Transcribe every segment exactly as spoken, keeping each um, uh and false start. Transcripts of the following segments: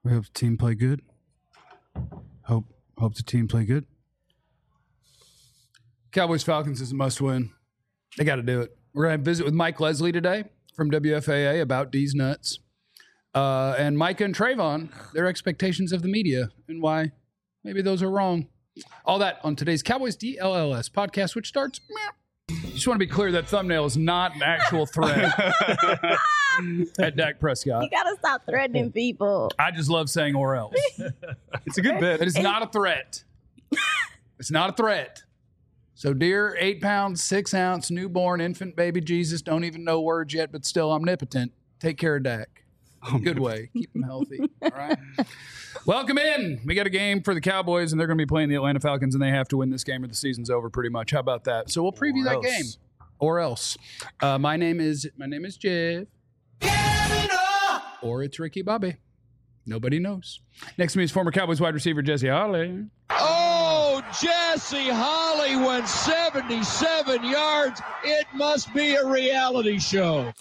We hope the team play good. Hope hope the team play good. Cowboys Falcons is a must win. They got to do it. We're going to visit with Mike Leslie today from W F A A about D's Nuts. Uh, and Micah and Trayvon, their expectations of the media and why maybe those are wrong. All that on today's Cowboys D L L S podcast, which starts. Just want to be clear that thumbnail is not an actual threat at Dak Prescott. You gotta stop threatening people. I just love saying or else. It's a good bit. It is not a threat. It's not a threat. So, dear eight pound, six ounce, newborn infant baby Jesus, don't even know words yet, but still omnipotent. Take care of Dak. Good way. Keep him healthy. All right. Welcome in. We got a game for the Cowboys, and they're going to be playing the Atlanta Falcons, and they have to win this game or the season's over pretty much. How about that? So we'll preview Or that else. game. Or else. Uh, my name is my name is Jeff. Or it's Ricky Bobby. Nobody knows. Next to me is former Cowboys wide receiver Jesse Holly. Oh, Jesse Holly went seventy-seven yards. It must be a reality show.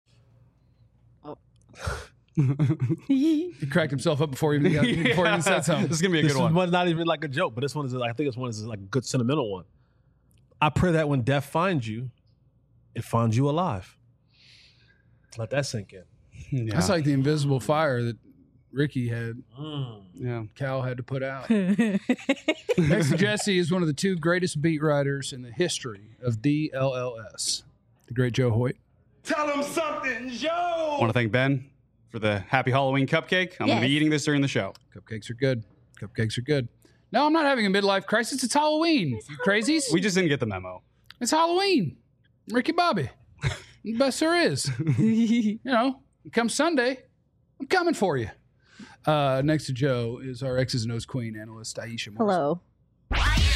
He cracked himself up before he even, got, before he even said something. This is gonna be a This good one. one's not even like a joke, but this one is, I think this one is like a good sentimental one. I pray that when death finds you, it finds you alive. Let that sink in. Yeah. That's like the invisible fire that Ricky had, yeah. Cal had to put out. Next to Jesse is one of the two greatest beat writers in the history of D L L S, the great Joe Hoyt. Tell him something, Joe. I want to thank Ben for the Happy Halloween cupcake. I'm going to be Yes. eating this during the show. Cupcakes are good. Cupcakes are good. No, I'm not having a midlife crisis. It's Halloween. You crazies? We just didn't get the memo. It's Halloween. Ricky Bobby. The best there is. You know, come Sunday, I'm coming for you. Uh, next to Joe is our X's and O's queen analyst, Aisha Morrison. Hello.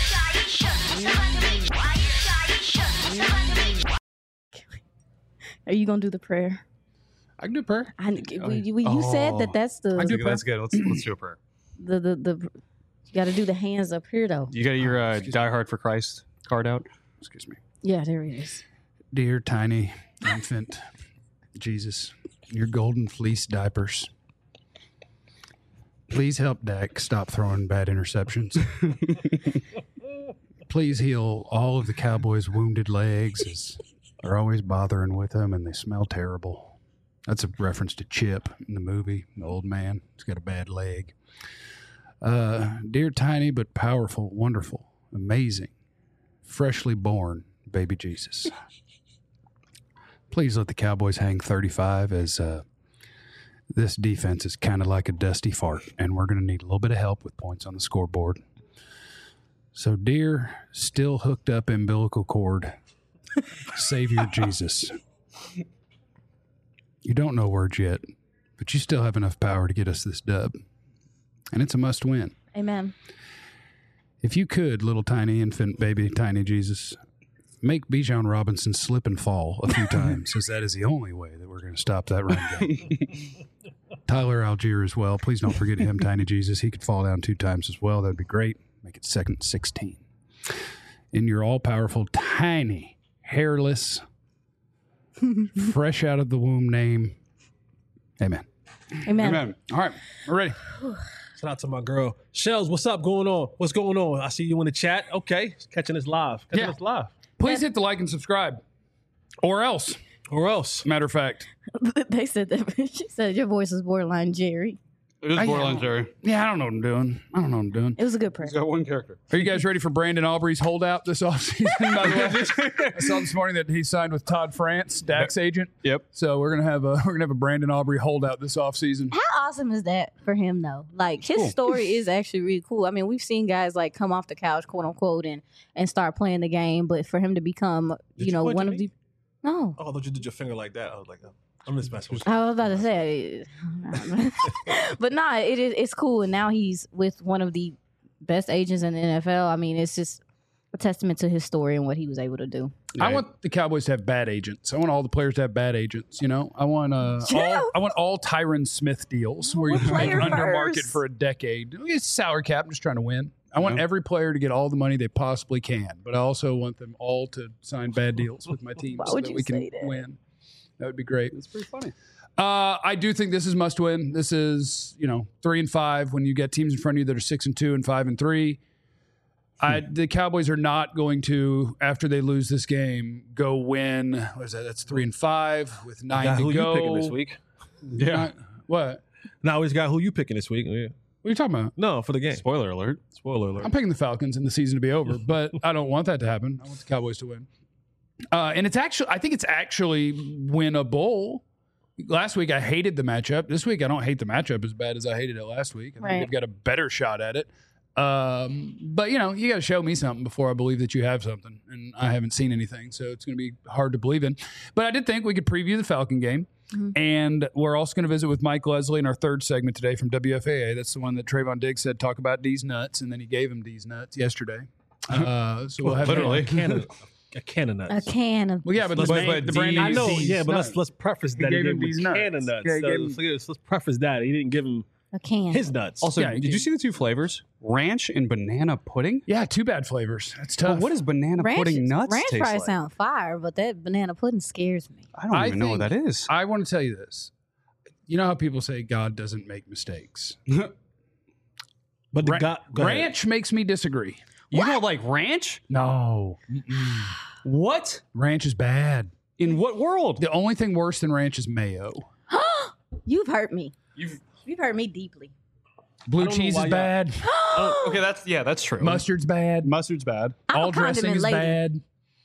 Are you gonna do the prayer? I can do a prayer. I, we, we, you said that that's the I do That's good. Let's, let's do a prayer. the the, the you got to do the hands up here though. You got your uh, Excuse Die Hard for Christ card out? Excuse me. Yeah, there it is. Dear tiny infant Jesus, your golden fleece diapers. Please help Dak stop throwing bad interceptions. Please heal all of the Cowboys' wounded legs, as they're always bothering with them and they smell terrible. That's a reference to Chip in the movie, the old man. He's got a bad leg. Uh, dear tiny but powerful, wonderful, amazing, freshly born baby Jesus. Please let the Cowboys hang thirty-five, as uh, this defense is kind of like a dusty fart, and we're going to need a little bit of help with points on the scoreboard. So, dear, still hooked up umbilical cord, Savior Jesus, you don't know words yet, but you still have enough power to get us this dub, and it's a must win. Amen. If you could, little tiny infant baby tiny Jesus, make Bijan Robinson slip and fall a few times, as that is the only way that we're going to stop that run game. Tyler Algier as well. Please don't forget him, tiny Jesus. He could fall down two times as well. That'd be great. Make it second sixteen. In your all-powerful, tiny, hairless, fresh out of the womb name. Amen. Amen. Amen. All right, we're ready. Shout out to my girl. Shells, what's up going on? What's going on? I see you in the chat. Okay. Catching this live. Catching Yeah. this live. Please hit the like and subscribe. Or else, Or else. matter of fact. They said that she said your voice is borderline Jerry. It is I- borderline Jerry. Yeah, I don't know what I'm doing. I don't know what I'm doing. It was a good prayer. He's got one character. Are you guys ready for Brandon Aubrey's holdout this offseason? By the way, I saw this morning that he signed with Todd France, Dak's agent. Yep. So we're gonna have a we're gonna have a Brandon Aubrey holdout this offseason. How awesome is that for him though? Like his Cool. story is actually really cool. I mean, we've seen guys like come off the couch, quote unquote, and and start playing the game, but for him to become, Did you know, you point one to of me? the no. Oh, I thought you did your finger like that. I was like, oh, I'm just messing with you. I was about to say, but nah, it is it's cool, and now he's with one of the best agents in the N F L. I mean, it's just a testament to his story and what he was able to do. I want the Cowboys to have bad agents. I want all the players to have bad agents. You know, I want uh, all, I want all Tyron Smith deals where you What make player under market first? for a decade. It's salary cap. I'm just trying to win. I want Yeah. every player to get all the money they possibly can, but I also want them all to sign bad deals with my team Why so would that you we can say that? win. That would be great. It's pretty funny. Uh, I do think this is must win. This is, you know, three and five when you get teams in front of you that are six and two and five and three. I, the Cowboys are not going to, after they lose this game, go win. What is that? That's three and five with nine Got to who go. you picking this week? Yeah. Not- what? Now he's got who you picking this week? Yeah. What are you talking about? No, for the game. Spoiler alert. Spoiler alert. I'm picking the Falcons and the season to be over, but I don't want that to happen. I want the Cowboys to win. Uh, and it's actually, I think it's actually winnable. Last week I hated the matchup. This week I don't hate the matchup as bad as I hated it last week. I think Right. they've got a better shot at it. Um, but you know, you got to show me something before I believe that you have something, and I haven't seen anything, so it's going to be hard to believe in. But I did think we could preview the Falcon game, Mm-hmm. and we're also going to visit with Mike Leslie in our third segment today from W F A A. That's the one that Trayvon Diggs said talk about D's nuts, and then he gave him D's nuts yesterday. Uh, so we'll have Literally. a can of a can of nuts. A can of. Well, yeah, but, Let's- the, but- brand, but the brand D's- I know, D's yeah, but let's nuts. let's preface that he gave gave him him these a nuts. can of nuts. Yeah, he So gave him- let's, let's preface that he didn't give him A can. his nuts. Also, Yeah, did you- you see the two flavors? Ranch and banana pudding? Yeah, two bad flavors. That's tough. But what does banana ranch, pudding nuts ranch taste fries like? sound fire, but that banana pudding scares me. I don't I even know what that think- is. I want to tell you this. You know how people say God doesn't make mistakes? but the Ra- guy, go ahead. ranch makes me disagree. You don't like ranch? No. What? Ranch is bad. In what world? The only thing worse than ranch is mayo. You've hurt me. You've, You've hurt me deeply. Blue I don't know cheese why is y'all- bad. oh, okay, that's yeah, that's true. Mustard's bad. Mustard's bad. I'm All a dressing condiment is lady. bad.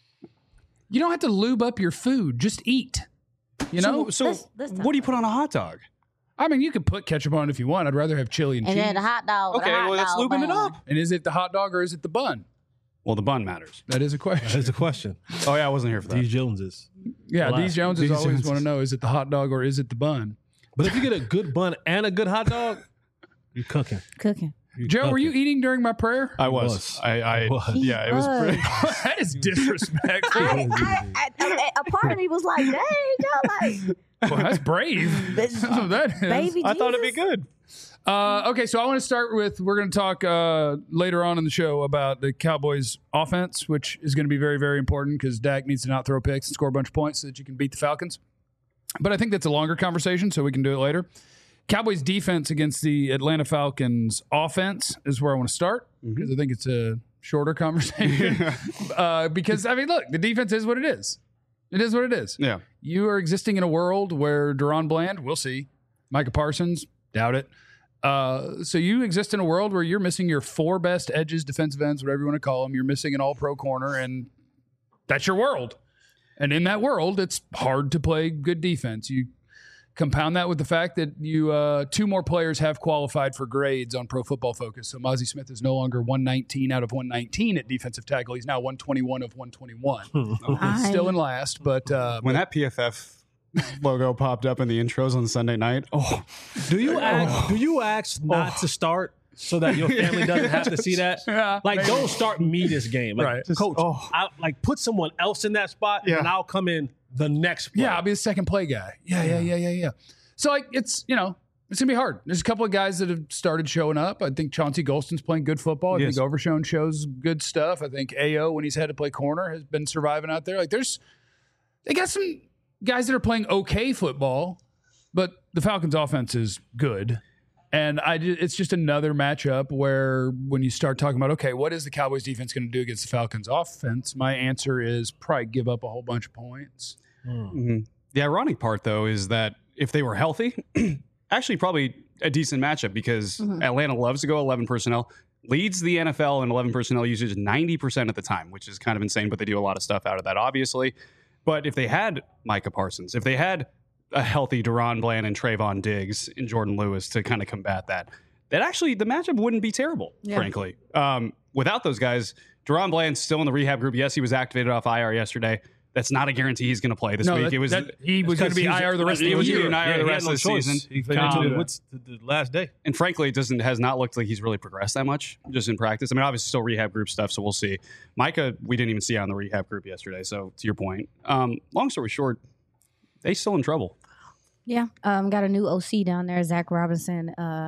You don't have to lube up your food. Just eat. You know? so, so This- this what do you put on a hot dog? I mean, you could put ketchup on it if you want. I'd rather have chili and, And cheese. then the hot dog. with Okay, a hot well, that's dog lubing it bun. up. And is it the hot dog or is it the bun? Well, the bun matters. That is a question. That's the question. Oh yeah, I wasn't here for that. These Joneses. Yeah, Relax. these Joneses These always Joneses. want to know, is it the hot dog or is it the bun? But if you get a good bun and a good hot dog, you're cooking. Cooking. You're Joe, were you cooking. eting during my prayer? I was. was. I, I was. He yeah, it was was. pretty. That is disrespectful. I, I, I, a part of me was like, dang, Joe, like, Well, that's brave. That's what that is. baby I thought it'd be Jesus. good. Uh, okay, so I want to start with we're going to talk uh, later on in the show about the Cowboys' offense, which is going to be very, very important because Dak needs to not throw picks and score a bunch of points so that you can beat the Falcons. But I think that's a longer conversation, so we can do it later. Cowboys' defense against the Atlanta Falcons' offense is where I want to start because I think it's a shorter conversation. uh, because, I mean, look, the defense is what it is. It is what it is. Yeah. You are existing in a world where Deron Bland, we'll see. Micah Parsons, doubt it. Uh, so you exist in a world where you're missing your four best edges, defensive ends, whatever you want to call them. You're missing an all-pro corner, and that's your world. And in that world, it's hard to play good defense. You compound that with the fact that you uh, two more players have qualified for grades on Pro Football Focus. So Mozzie Smith is no longer one nineteen out of one nineteen at defensive tackle. He's now one twenty-one of one twenty-one. I- Still in last, but uh, When that P F F logo popped up in the intros on Sunday night, oh, Do you ask? Do you ask not to start so that your family doesn't have to see that? Yeah, Like, maybe. don't start me this game. Like, Right. coach, oh. I, like put someone else in that spot, Yeah. and I'll come in the next. Play. Yeah, I'll be the second play guy. Yeah, yeah, yeah, yeah, yeah. So like it's, you know, it's gonna be hard. There's a couple of guys that have started showing up. I think Chauncey Golston's playing good football. I Yes. think Overshone shows good stuff. I think A O, when he's had to play corner, has been surviving out there. Like there's they got some guys that are playing okay football, but the Falcons offense is good. And I ju- it's just another matchup where when you start talking about, okay, what is the Cowboys defense going to do against the Falcons offense? My answer is probably give up a whole bunch of points. Mhm. The ironic part, though, is that if they were healthy, actually probably a decent matchup because Atlanta loves to go eleven personnel, leads the N F L in eleven personnel usage ninety percent of the time, which is kind of insane, but they do a lot of stuff out of that, obviously. But if they had Micah Parsons, if they had a healthy Deron Bland and Trayvon Diggs and Jordan Lewis to kind of combat that, that actually the matchup wouldn't be terrible, Yeah. frankly. Um, without those guys, Deron Bland's still in the rehab group. Yes, he was activated off I R yesterday. That's not a guarantee he's going to play this No, week. that- it was that- he was going to be I R the rest of he the was year. gonna be an I R the he rest had of the no choice. season. He They um, did that. what's the, the last day? And frankly, it doesn't has not looked like he's really progressed that much just in practice. I mean, obviously still rehab group stuff, so we'll see. Micah, we didn't even see on the rehab group yesterday. So to your point, um, long story short, they still in trouble. Yeah, um, got a new O C down there, Zach Robinson. Uh,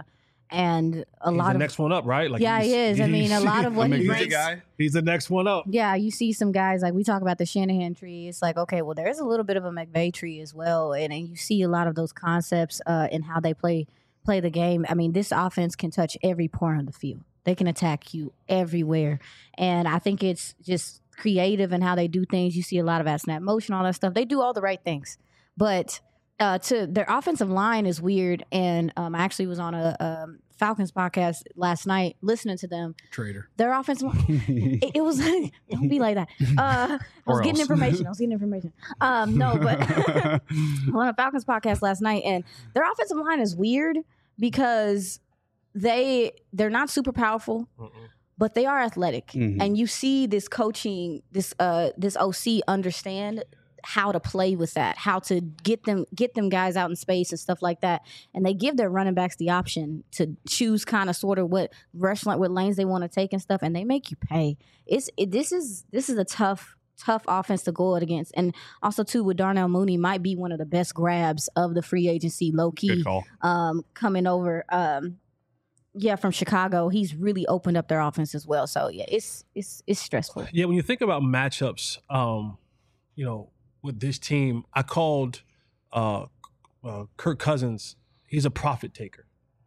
and a He's lot the of next one up, right? Like yeah, he's- he is. I mean, a lot of what A he McVay brings. guy. He's the next one up. Yeah, you see some guys like we talk about the Shanahan tree. It's like, okay, well, there's a little bit of a McVay tree as well, and, and you see a lot of those concepts uh, in how they play play the game. I mean, this offense can touch every corner of the field. They can attack you everywhere, and I think it's just creative in how they do things. You see a lot of at snap motion, all that stuff. They do all the right things, but uh, to their offensive line is weird. And um, I actually was on a um, Falcons podcast last night listening to them. Traitor. Their offensive line, it, it was don't be like that. Uh, I was Or getting else. information. I was getting information. Um, no, but on a Falcons podcast last night, and their offensive line is weird because they they're not super powerful, but they are athletic, Mhm. and you see this coaching, this uh this O C understand how to play with that, how to get them get them guys out in space and stuff like that, and they give their running backs the option to choose kind of sort of what rush like what lanes they want to take and stuff, and they make you pay. It's it, this is this is a tough tough offense to go against, and also too with Darnell Mooney might be one of the best grabs of the free agency, low key, Good call. um, coming over. Um, yeah, from Chicago, he's really opened up their offense as well. So yeah, it's it's it's stressful. Yeah, when you think about matchups, um, you know, with this team, I called uh, uh, Kirk Cousins. He's a profit taker,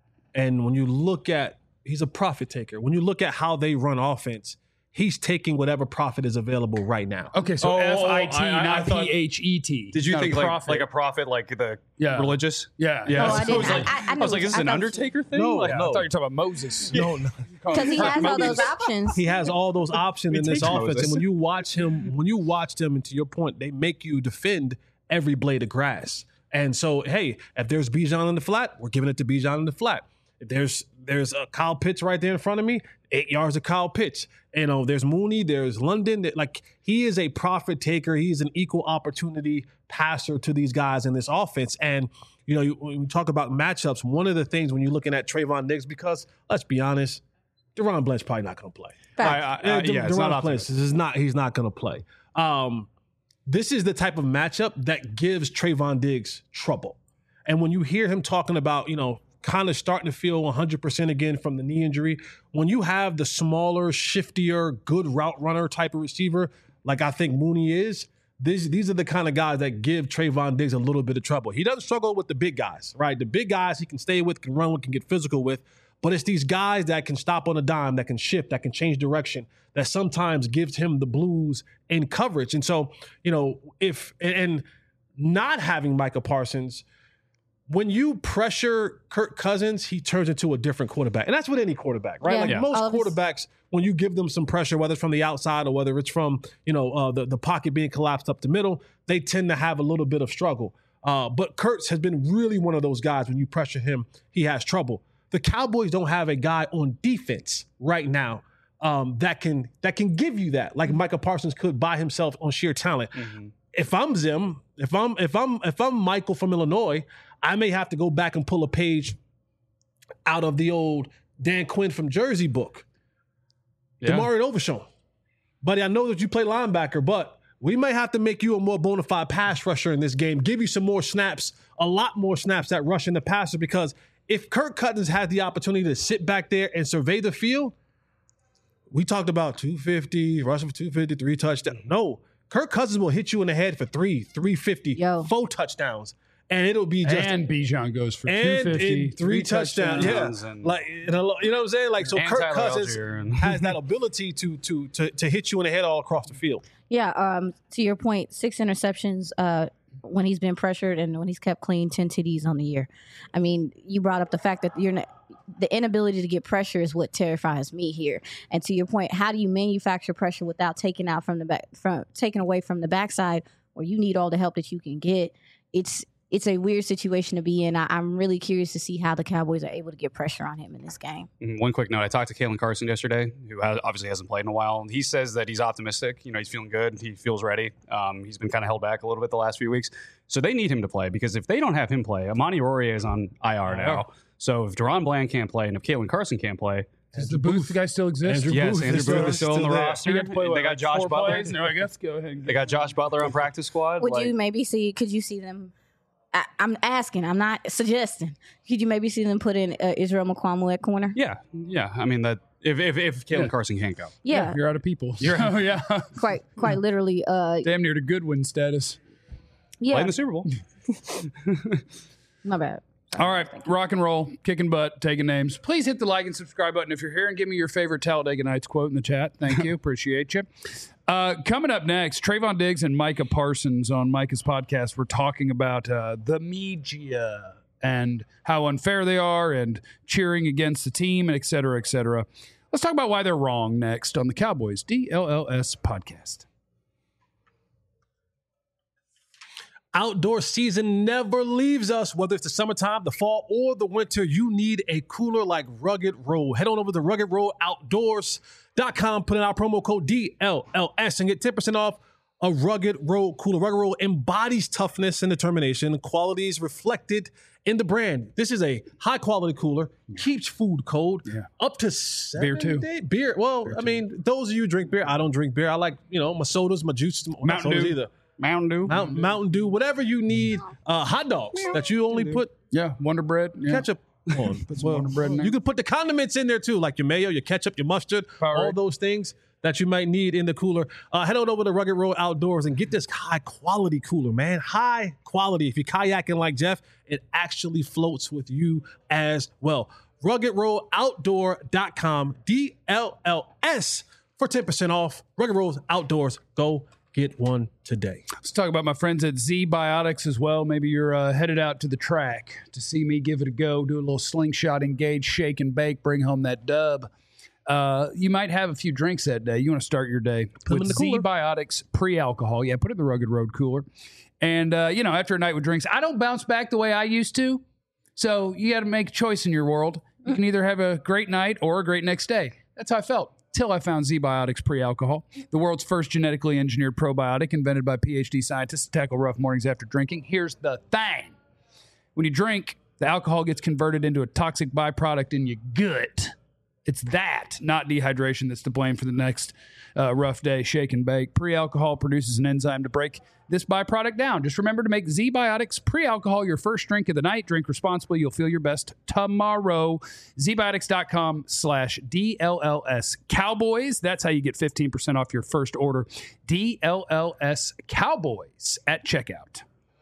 and when you look at, he's a profit taker. When you look at how they run offense, he's taking whatever profit is available right now. Okay, so Oh, F I T, I- I- I not thought- P H E T. Did you Not think a like, prophet. like a prophet, like the Yeah. religious? Yeah. Yeah. Oh, I So didn't- was like, I- I- I was like, knew- is this I an thought- Undertaker thing? No, like, Yeah, no. I thought you were talking about Moses. No, no. Because he has all those options. He has all those options We in this teach offense, Moses. and when you watch him, when you watch them, and to your point, they make you defend every blade of grass. And so, hey, if there's Bijan in the flat, we're giving it to Bijan in the flat. If there's there's a Kyle Pitts right there in front of me, eight yards of Kyle Pitts. You know, there's Mooney, there's London. That, like, he is a profit taker. He's an equal opportunity passer to these guys in this offense. And you know, you, when we talk about matchups, one of the things when you're looking at Trayvon Diggs, because let's be honest, Deron Blanche probably not going to play. Fact. I, I, Yeah, I, yeah, it's not Deron Blanche optimistic. is not. He's not going to play. Um, this is the type of matchup that gives Trayvon Diggs trouble. And when you hear him talking about, you know, kind of starting to feel one hundred percent again from the knee injury, when you have the smaller, shiftier, good route runner type of receiver, like I think Mooney is, these these are the kind of guys that give Trayvon Diggs a little bit of trouble. He doesn't struggle with the big guys, right? The big guys he can stay with, can run with, can get physical with. But it's these guys that can stop on a dime, that can shift, that can change direction, that sometimes gives him the blues in coverage. And so, you know, if and, and not having Micah Parsons, when you pressure Kirk Cousins, he turns into a different quarterback. And that's with any quarterback, right? Yeah. Like Yeah. most All of his- quarterbacks, when you give them some pressure, whether it's from the outside or whether it's from, you know, uh, the, the pocket being collapsed up the middle, they tend to have a little bit of struggle. Uh, but Kurtz has been really one of those guys, when you pressure him, he has trouble. The Cowboys don't have a guy on defense right now um, that can that can give you that, like Micah Parsons could by himself on sheer talent. Mhm. If I'm Zim, if I'm if I'm if I'm Michael from Illinois, I may have to go back and pull a page out of the old Dan Quinn from Jersey book. Yeah. Damari Overshown. Buddy, I know that you play linebacker, but we may have to make you a more bona fide pass rusher in this game, give you some more snaps, a lot more snaps at rushing the passer, because if Kirk Cousins had the opportunity to sit back there and survey the field, we talked about two fifty, rushing for two fifty, three touchdowns. No, Kirk Cousins will hit you in the head for three, three fifty, Yo. four touchdowns. And it'll be just And Bijan goes for and two fifty, in three touchdowns. touchdowns Yeah, and- like you know, you know what I'm saying. Like so, And Kirk Tyler Cousins Algier and- has that ability to to to to hit you in the head all across the field. Yeah, um, to your point, six interceptions uh, when he's been pressured and when he's kept clean, ten T Ds on the year. I mean, you brought up the fact that you're not, the inability to get pressure is what terrifies me here. And to your point, how do you manufacture pressure without taking out from the back, from taking away from the backside, where you need all the help that you can get? It's it's a weird situation to be in. I, I'm really curious to see how the Cowboys are able to get pressure on him in this game. Mhm. One quick note: I talked to Kalen Carson yesterday, who has, obviously hasn't played in a while. He says that he's optimistic. You know, he's feeling good. He feels ready. Um, he's been kind of held back a little bit the last few weeks, so they need him to play, because if they don't have him play, Amani Oruwariye is on I R now. So if Deron Bland can't play and if Kalen Carson can't play, Does the Booth guy still exist? Andrew yes, Booth Andrew is Booth still- is still on still the there. roster. He got to play, what, They got like Josh four Butler. plays? No, I guess go ahead. and They got Josh Butler on practice squad. Would Like, you maybe see? Could you see them I, I'm asking. I'm not suggesting. Could you maybe see them put in uh, Israel Mukuamu at corner? Yeah, yeah. I mean that if if, if Caitlin Yeah. Carson can't go, Yeah, You're out of people. You're- So, yeah. quite quite literally. Uh, Damn near to Goodwin status. yeah, playing the Super Bowl. my bad. All right, rock and roll, kicking butt, taking names. Please hit the like and subscribe button if you're here, and give me your favorite Talladega Nights quote in the chat. Thank you, appreciate you. Uh, coming up next, Trayvon Diggs and Micah Parsons on Micah's podcast. We're talking about uh, the media and how unfair they are, and cheering against the team, and et cetera, et cetera. Let's talk about why they're wrong next on the Cowboys D L L S podcast. Outdoor season never leaves us. Whether it's the summertime, the fall, or the winter, you need a cooler like Rugged Road. Head on over to rugged road outdoors dot com, put in our promo code D L L S and get ten percent off a Rugged Road cooler. Rugged Road embodies toughness and determination, qualities reflected in the brand. This is a high quality cooler, keeps food cold, Yeah. up to seven Beer too. day- Beer. Well, I mean, those of you who drink beer, I don't drink beer. I like, you know, my sodas, my juices, not Mountain sodas Dew. either. Mountain Dew. Mountain, Mountain Dew, whatever you need. Uh, hot dogs that you only put Yeah, Wonder Bread. Yeah. ketchup on. Put some Wonder Bread in there. You can put the condiments in there too, like your mayo, your ketchup, your mustard, all Powerade. those things that you might need in the cooler. Uh, head on over to Rugged Road Outdoors and get this high quality cooler, man. High quality. If you're kayaking like Jeff, it actually floats with you as well. rugged road outdoor dot com, D L L S for ten percent off. Rugged Road Outdoors. Go get one today. Let's talk about my friends at Z Biotics as well. Maybe you're uh, headed out to the track to see me give it a go, do a little slingshot, engage, shake, and bake, bring home that dub. Uh, you might have a few drinks that day. You want to start your day them with in the Z cooler. Biotics pre-alcohol. Yeah, put it in the Rugged Road cooler. And, uh, you know, after a night with drinks, I don't bounce back the way I used to. So you got to make a choice in your world. You can either have a great night or a great next day. That's how I felt till I found Z Biotics pre-alcohol, the world's first genetically engineered probiotic invented by PhD scientists to tackle rough mornings after drinking. Here's the thing. When you drink, the alcohol gets converted into a toxic byproduct in your gut. It's that, not dehydration, that's to blame for the next uh, rough day. Shake and bake. Pre-alcohol produces an enzyme to break this byproduct down. Just remember to make Z Biotics pre-alcohol your first drink of the night. Drink responsibly. You'll feel your best tomorrow. Z Biotics dot com slash D L L S Cowboys. That's how you get fifteen percent off your first order. D L L S Cowboys at checkout.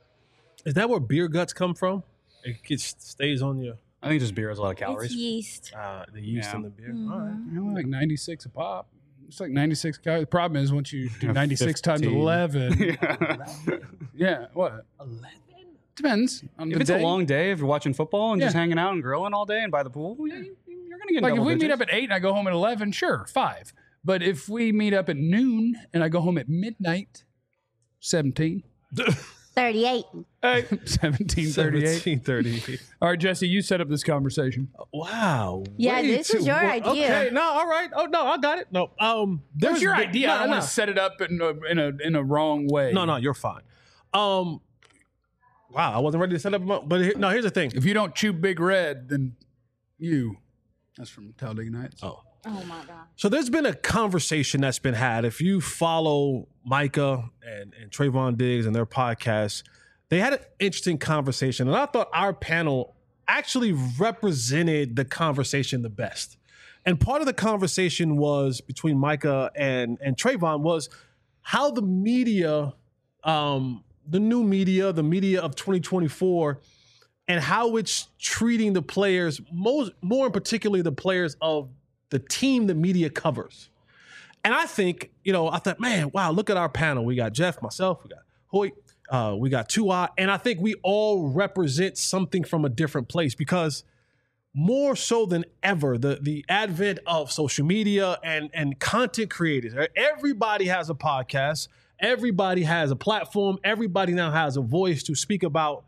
Is that where beer guts come from? It just stays on your I think just beer has a lot of calories. It's yeast. uh, the yeast Yeah. in the beer. All right. You know, like ninety-six a pop. It's like ninety-six calories. The problem is once you do Yeah, ninety-six times fifteen. eleven. Yeah. Yeah, what? eleven? Depends on If the it's day. a long day, if you're watching football and just Yeah. hanging out and grilling all day and by the pool, yeah, you- you're going to get Like if double we meet digits. up at eight and I go home at eleven, sure, five. But if we meet up at noon and I go home at midnight, seventeen. thirty-eight. Hey, seventeen thirty-eight. seventeen thirty. All right, Jesse, you set up this conversation. Wow. Yeah, way this is too- your well, idea. Okay, no, all right. Oh no, I got it. No, um, What's there's your the- idea? No, I don't no. want to set it up in a, in a in a wrong way. No, no, you're fine. Um, wow, I wasn't ready to set up. a- But here, no, here's the thing. If you don't chew Big Red, then you. That's from Talladega Nights. Oh. Oh my god. So there's been a conversation that's been had. If you follow Micah and, and Trayvon Diggs and their podcast, they had an interesting conversation. And I thought our panel actually represented the conversation the best. And part of the conversation was between Micah and, and Trayvon was how the media, um, the new media, the media of twenty twenty-four, and how it's treating the players, most, more in particularly the players of the team the media covers. And I think, you know, I thought, man, wow, look at our panel. We got Jeff, myself, we got Hoyt, uh, we got Tua, and I think we all represent something from a different place because more so than ever, the, the advent of social media and, and content creators, everybody has a podcast, everybody has a platform, everybody now has a voice to speak about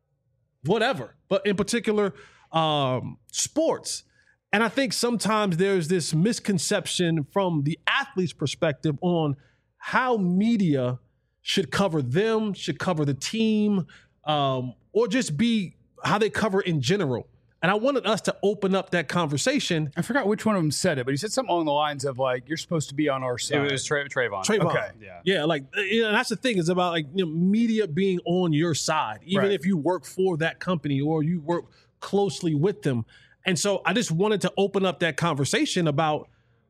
whatever, but in particular, um, sports. And I think sometimes there's this misconception from the athlete's perspective on how media should cover them, should cover the team, um, or just be how they cover in general. And I wanted us to open up that conversation. I forgot which one of them said it, but he said something along the lines of like, "You're supposed to be on our side." It was Tra- Trayvon. Trayvon. Okay. Yeah. Yeah, like, you know, that's the thing, is about like, you know, media being on your side, even Right. if you work for that company or you work closely with them. And so I just wanted to open up that conversation about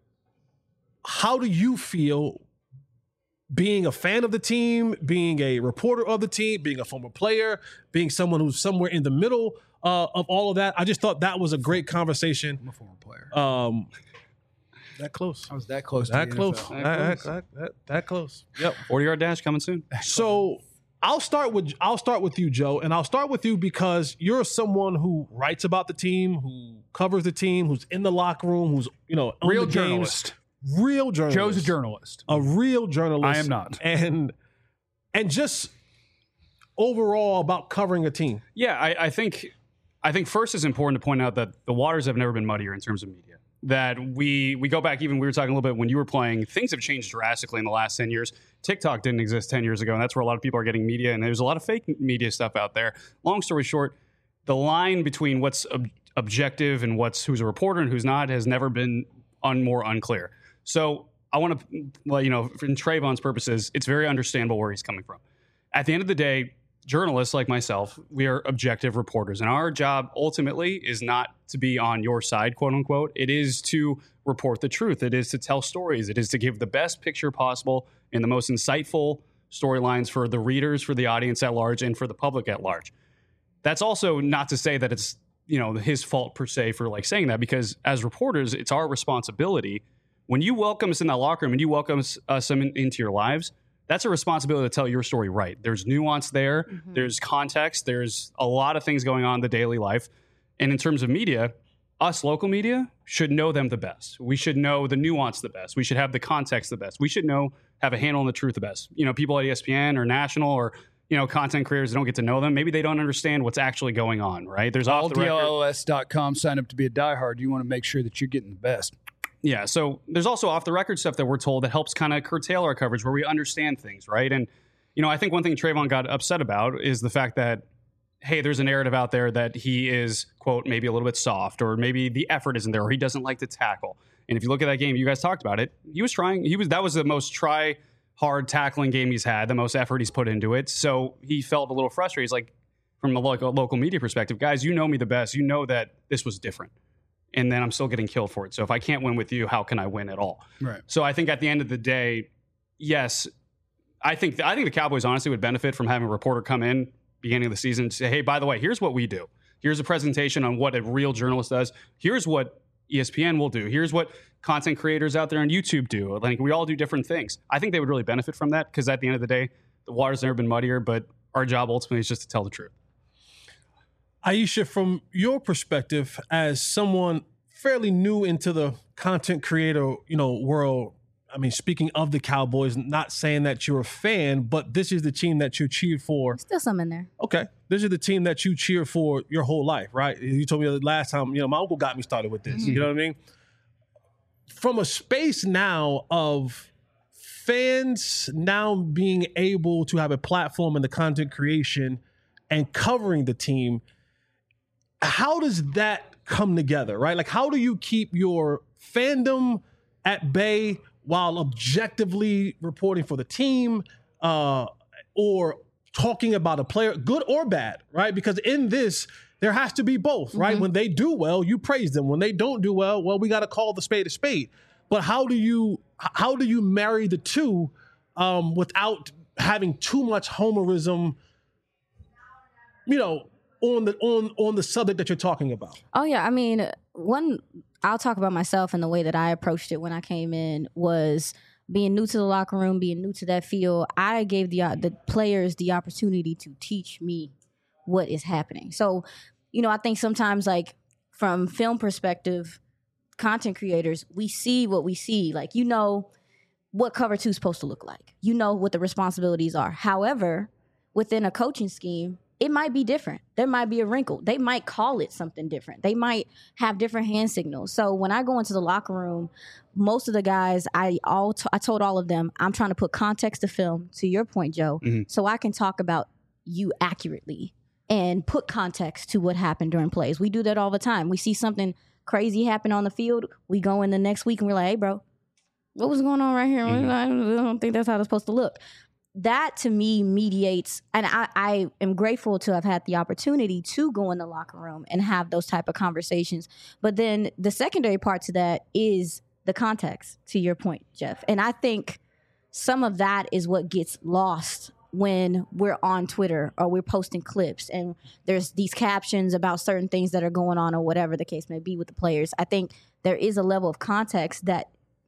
how do you feel being a fan of the team, being a reporter of the team, being a former player, being someone who's somewhere in the middle uh, of all of that. I just thought that was a great conversation. I'm a former player. Um, that close. I was that close. That to the close. N F L. That, that, that, that, that close. Yep. forty-yard dash coming soon. So I'll start with I'll start with you, Joe, and I'll start with you because you're someone who writes about the team, who covers the team, who's in the locker room, who's, you know, on Real the journalist. games. Real journalist. Joe's a journalist. A real journalist. I am not. And and just overall about covering a team. Yeah, I, I think I think first it's important to point out that the waters have never been muddier in terms of media. That we we go back, even we were talking a little bit when you were playing, things have changed drastically in the last ten years. TikTok didn't exist ten years ago, and that's where a lot of people are getting media, and there's a lot of fake media stuff out there. Long story short, the line between what's ob- objective and what's who's a reporter and who's not has never been un- more unclear. So I want to, well, you know, in Trayvon's purposes, it's very understandable where he's coming from. At the end of the day, journalists like myself, we are objective reporters, and our job ultimately is not to be on your side, quote unquote. It is to report the truth. It is to tell stories. It is to give the best picture possible and the most insightful storylines for the readers, for the audience at large, and for the public at large. That's also not to say that it's, you know, his fault per se for like saying that, because as reporters, it's our responsibility. When you welcome us in that locker room and you welcome us, us in, into your lives, that's a responsibility to tell your story right. There's nuance there. Mm-hmm. There's context. There's a lot of things going on in the daily life. And in terms of media, us local media should know them the best. We should know the nuance the best. We should have the context the best. We should know, have a handle on the truth the best. You know, people at E S P N or national or, you know, content creators that don't get to know them, maybe they don't understand what's actually going on, right? There's off the record. L D L S dot com, sign up to be a diehard. You want to make sure that you're getting the best. Yeah, so there's also off-the-record stuff that we're told that helps kind of curtail our coverage where we understand things, right? And, you know, I think one thing Trayvon got upset about is the fact that, hey, there's a narrative out there that he is, quote, maybe a little bit soft, or maybe the effort isn't there, or he doesn't like to tackle. And if you look at that game, you guys talked about it, he was trying, he was that was the most try-hard tackling game he's had, the most effort he's put into it. So he felt a little frustrated. He's like, from a local, local media perspective, guys, you know me the best. You know that this was different. And then I'm still getting killed for it. So if I can't win with you, how can I win at all? Right. So I think at the end of the day, yes, I think I think the Cowboys honestly would benefit from having a reporter come in beginning of the season and say, hey, by the way, here's what we do. Here's a presentation on what a real journalist does. Here's what E S P N will do. Here's what content creators out there on YouTube do. Like, we all do different things. I think they would really benefit from that, because at the end of the day, the water's never been muddier, but our job ultimately is just to tell the truth. Aisha, from your perspective as someone fairly new into the content creator, you know, world, I mean, speaking of the Cowboys, not saying that you're a fan, but this is the team that you cheered for. Still some in there. Okay. This is the team that you cheered for your whole life, right? You told me the last time, you know, my uncle got me started with this. Mm-hmm. You know what I mean? From a space now of fans now being able to have a platform in the content creation and covering the team, how does that come together, right? Like, how do you keep your fandom at bay while objectively reporting for the team, uh, or talking about a player, good or bad, right? Because in this, there has to be both, right? Mm-hmm. When they do well, you praise them. When they don't do well, well, we got to call the spade a spade. But how do you how do you marry the two um, without having too much homerism, you know, on the on on the subject that you're talking about? Oh yeah, I mean, one I'll talk about myself, and the way that I approached it when I came in was being new to the locker room, being new to that field. I gave the uh, the players the opportunity to teach me what is happening. So, you know, I think sometimes, like, from film perspective, content creators, we see what we see. Like, you know what cover two is supposed to look like. You know what the responsibilities are. However, within a coaching scheme, it might be different. There might be a wrinkle. They might call it something different. They might have different hand signals. So when I go into the locker room, most of the guys, I all t- I told all of them, I'm trying to put context to film, to your point, Joe, mm-hmm. so I can talk about you accurately and put context to what happened during plays. We do that all the time. We see something crazy happen on the field. We go in the next week and we're like, hey, bro, what was going on right here? Mm-hmm. I don't think that's how it's supposed to look. That to me mediates, and I, I am grateful to have had the opportunity to go in the locker room and have those type of conversations. But then the secondary part to that is the context, to your point, Jeff. And I think some of that is what gets lost when we're on Twitter or we're posting clips and there's these captions about certain things that are going on or whatever the case may be with the players. I think there is a level of context that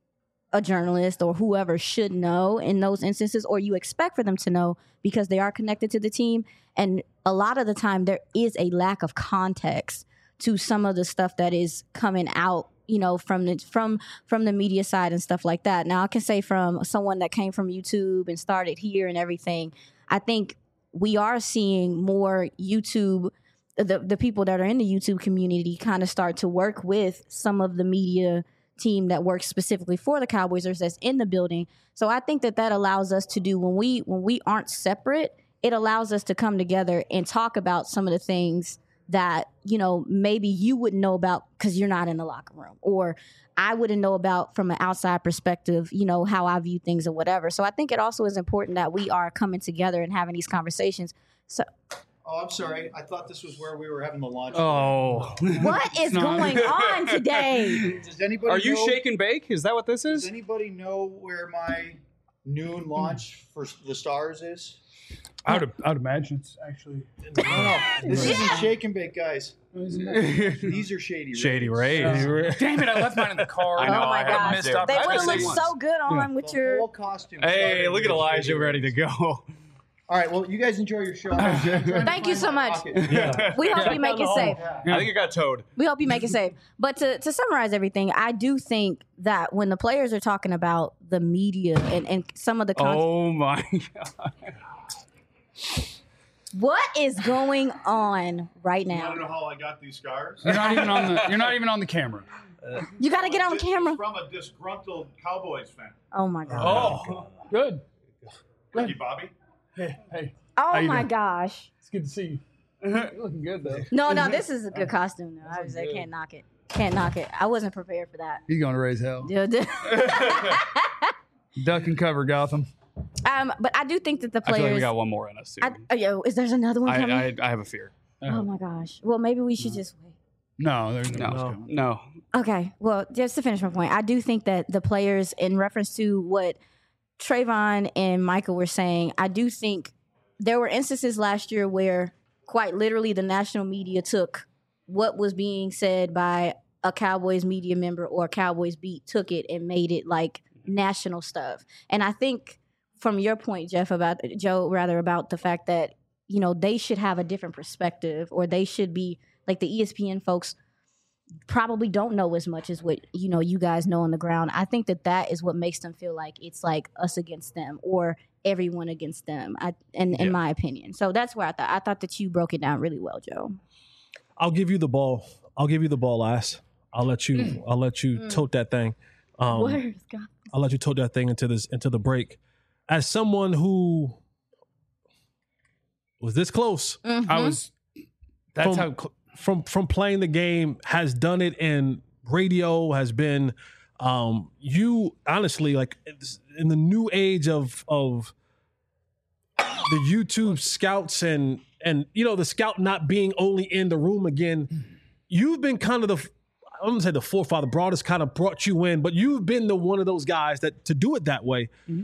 a journalist or whoever should know in those instances, or you expect for them to know because they are connected to the team. And a lot of the time there is a lack of context to some of the stuff that is coming out, you know, from the from from the media side and stuff like that. Now I can say from someone that came from YouTube and started here and everything, I think we are seeing more YouTube, the the people that are in the YouTube community kind of start to work with some of the media team that works specifically for the Cowboys or that's in the building. So I think that that allows us to do, when we when we aren't separate, it allows us to come together and talk about some of the things that, you know, maybe you wouldn't know about because you're not in the locker room, or I wouldn't know about from an outside perspective, you know, how I view things or whatever. So I think it also is important that we are coming together and having these conversations. So Oh, I'm sorry. I thought this was where we were having the launch. Oh. what is going on today? Does anybody Are you know, shake and bake? Is that what this is? Does anybody know where my noon launch for the Stars is? I would, I would imagine it's actually. No, no. This isn't shake and bake, guys. These are shady rays. Shady Rays. Uh, damn it! I left mine in the car. I know, Oh my I had gosh. missed out. They I would have missed looked it once. so good on with The your whole costume. Hey, started look at with Elijah Shady ready to Rays. go. All right, well, you guys enjoy your show. I'm trying to Thank you find so my much. pocket. Yeah. We hope you make it safe. I think it got towed. We hope you make it safe. But to, to summarize everything, I do think that when the players are talking about the media and, and some of the content, Oh my God. what is going on right I don't now? know how I got these scars. You're not even on the. You're not even on the camera. You got to get on It's camera. from a disgruntled Cowboys fan. Oh my god. Oh, good. Ricky Bobby. Hey, hey, Oh you my doing? gosh. it's good to see you. You're looking good though. No, no, this is a good costume though. I was I can't knock it. Can't knock it. I wasn't prepared for that. He's going to raise hell. Dude. Duck and cover, Gotham. um, but I do think that the I feel like players. we got one more in us too. I, uh, yo, is there's another one I, coming? I, I have a fear. oh my gosh. Well, maybe we should just wait. No, there's no. No, no. no. Okay. Well, just to finish my point, I do think that the players, in reference to what Trayvon and Michael were saying, I do think there were instances last year where quite literally the national media took what was being said by a Cowboys media member or a Cowboys beat, took it and made it like national stuff. And I think from your point, Jeff, about Joe, rather about the fact that, you know, they should have a different perspective, or they should be like the E S P N folks probably don't know as much as what, you know, you guys know on the ground. I think that that is what makes them feel like it's like us against them or everyone against them, I, in, in Yeah. my opinion. So that's where I thought, I thought that you broke it down really well, Joe. I'll give you the ball. I'll give you the ball, ass. I'll let you. I'll let you tote that thing. Um, Where's God? I'll let you tote that thing into this into the break. As someone who was this close I was. That's From- how. Cl- from from playing the game, has done it in radio, has been um, you honestly like in the new age of of the YouTube scouts and and you know the scout not being only in the room again. You've been kind of the I'm gonna say the forefather, broadest kind of brought you in, but you've been the one of those guys that to do it that way. Mm-hmm.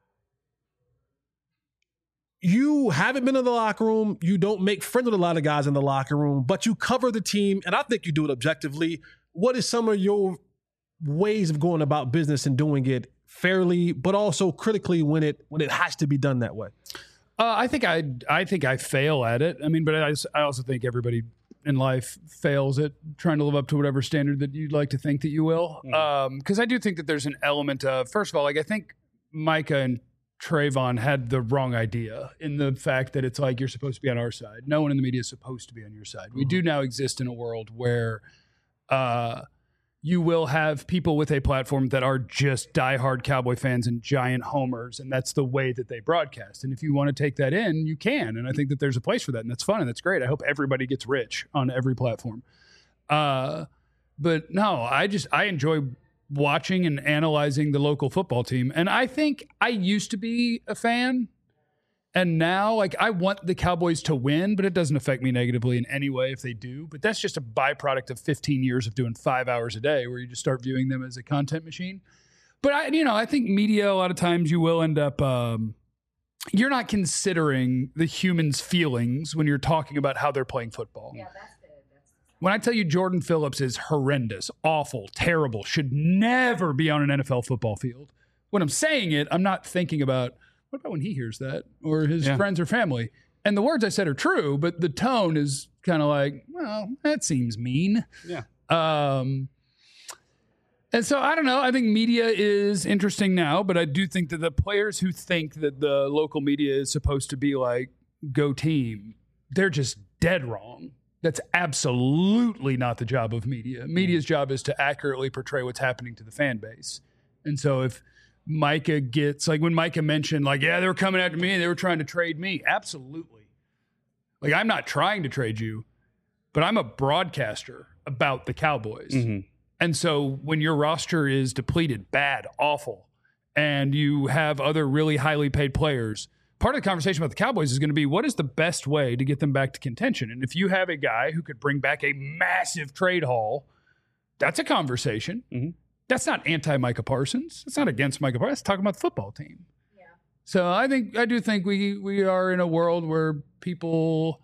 You haven't been in the locker room. You don't make friends with a lot of guys in the locker room, but you cover the team, and I think you do it objectively. What is some of your ways of going about business and doing it fairly, but also critically when it when it has to be done that way? Uh, I think I I think I fail at it. I mean, but I, I also think everybody in life fails at trying to live up to whatever standard that you'd like to think that you will. Because I do think that there's an element of, first of all, like I think Micah and Trayvon had the wrong idea in the fact that it's like you're supposed to be on our side. No one in the media is supposed to be on your side. We do now exist in a world where uh, you will have people with a platform that are just diehard Cowboy fans and giant homers, and that's the way that they broadcast. And if you want to take that in, you can. And I think that there's a place for that, and that's fun, and that's great. I hope everybody gets rich on every platform. Uh, but no, I just I enjoy watching and analyzing the local football team. And I think I used to be a fan. And now, like, I want the Cowboys to win, but it doesn't affect me negatively in any way if they do. But that's just a byproduct of fifteen years of doing five hours a day where you just start viewing them as a content machine. But, I, you know, I think media, a lot of times you will end up, um, you're not considering the humans' feelings when you're talking about how they're playing football. Yeah, that's good. That's... When I tell you Jordan Phillips is horrendous, awful, terrible, should never be on an N F L football field. When I'm saying it, I'm not thinking about, what about when he hears that or his yeah. friends or family? And the words I said are true, but the tone is kind of like, well, that seems mean. Yeah. Um, and so I don't know. I think media is interesting now, but I do think that the players who think that the local media is supposed to be like, go team, they're just dead wrong. That's absolutely not the job of media. Media's job is to accurately portray what's happening to the fan base. And so if Micah gets, like when Micah mentioned, like, yeah, they were coming after me and they were trying to trade me. Absolutely. Like, I'm not trying to trade you, but I'm a broadcaster about the Cowboys. Mm-hmm. And so when your roster is depleted, bad, awful, and you have other really highly paid players, part of the conversation about the Cowboys is going to be, what is the best way to get them back to contention? And if you have a guy who could bring back a massive trade haul, that's a conversation. Mm-hmm. That's not anti-Micah Parsons. It's not against Micah Parsons. It's talking about the football team. Yeah. So I think I do think we we are in a world where people,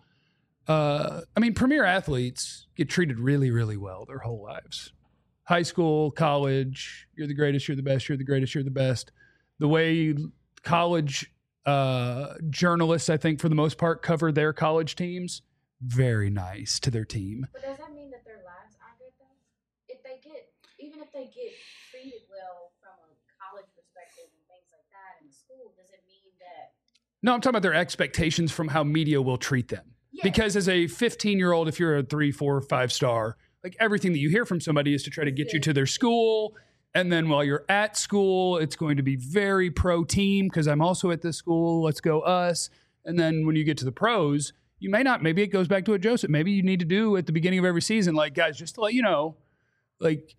uh, I mean, premier athletes get treated really, really well their whole lives. High school, college, you're the greatest, you're the best, you're the greatest, you're the best. The way college uh, journalists, I think, for the most part, cover their college teams, very nice to their team. But does that mean that their lives are good, though? If they get... Even if they get treated well from a college perspective and things like that in school, does it mean that... No, I'm talking about their expectations from how media will treat them. Yes. Because as a fifteen-year-old, if you're a three, four, five star, like everything that you hear from somebody is to try to get you to their school. And then while you're at school, it's going to be very pro-team because I'm also at this school. Let's go us. And then when you get to the pros, you may not. Maybe it goes back to what Joseph. Maybe you need to do at the beginning of every season, like, guys, just to let you know, like...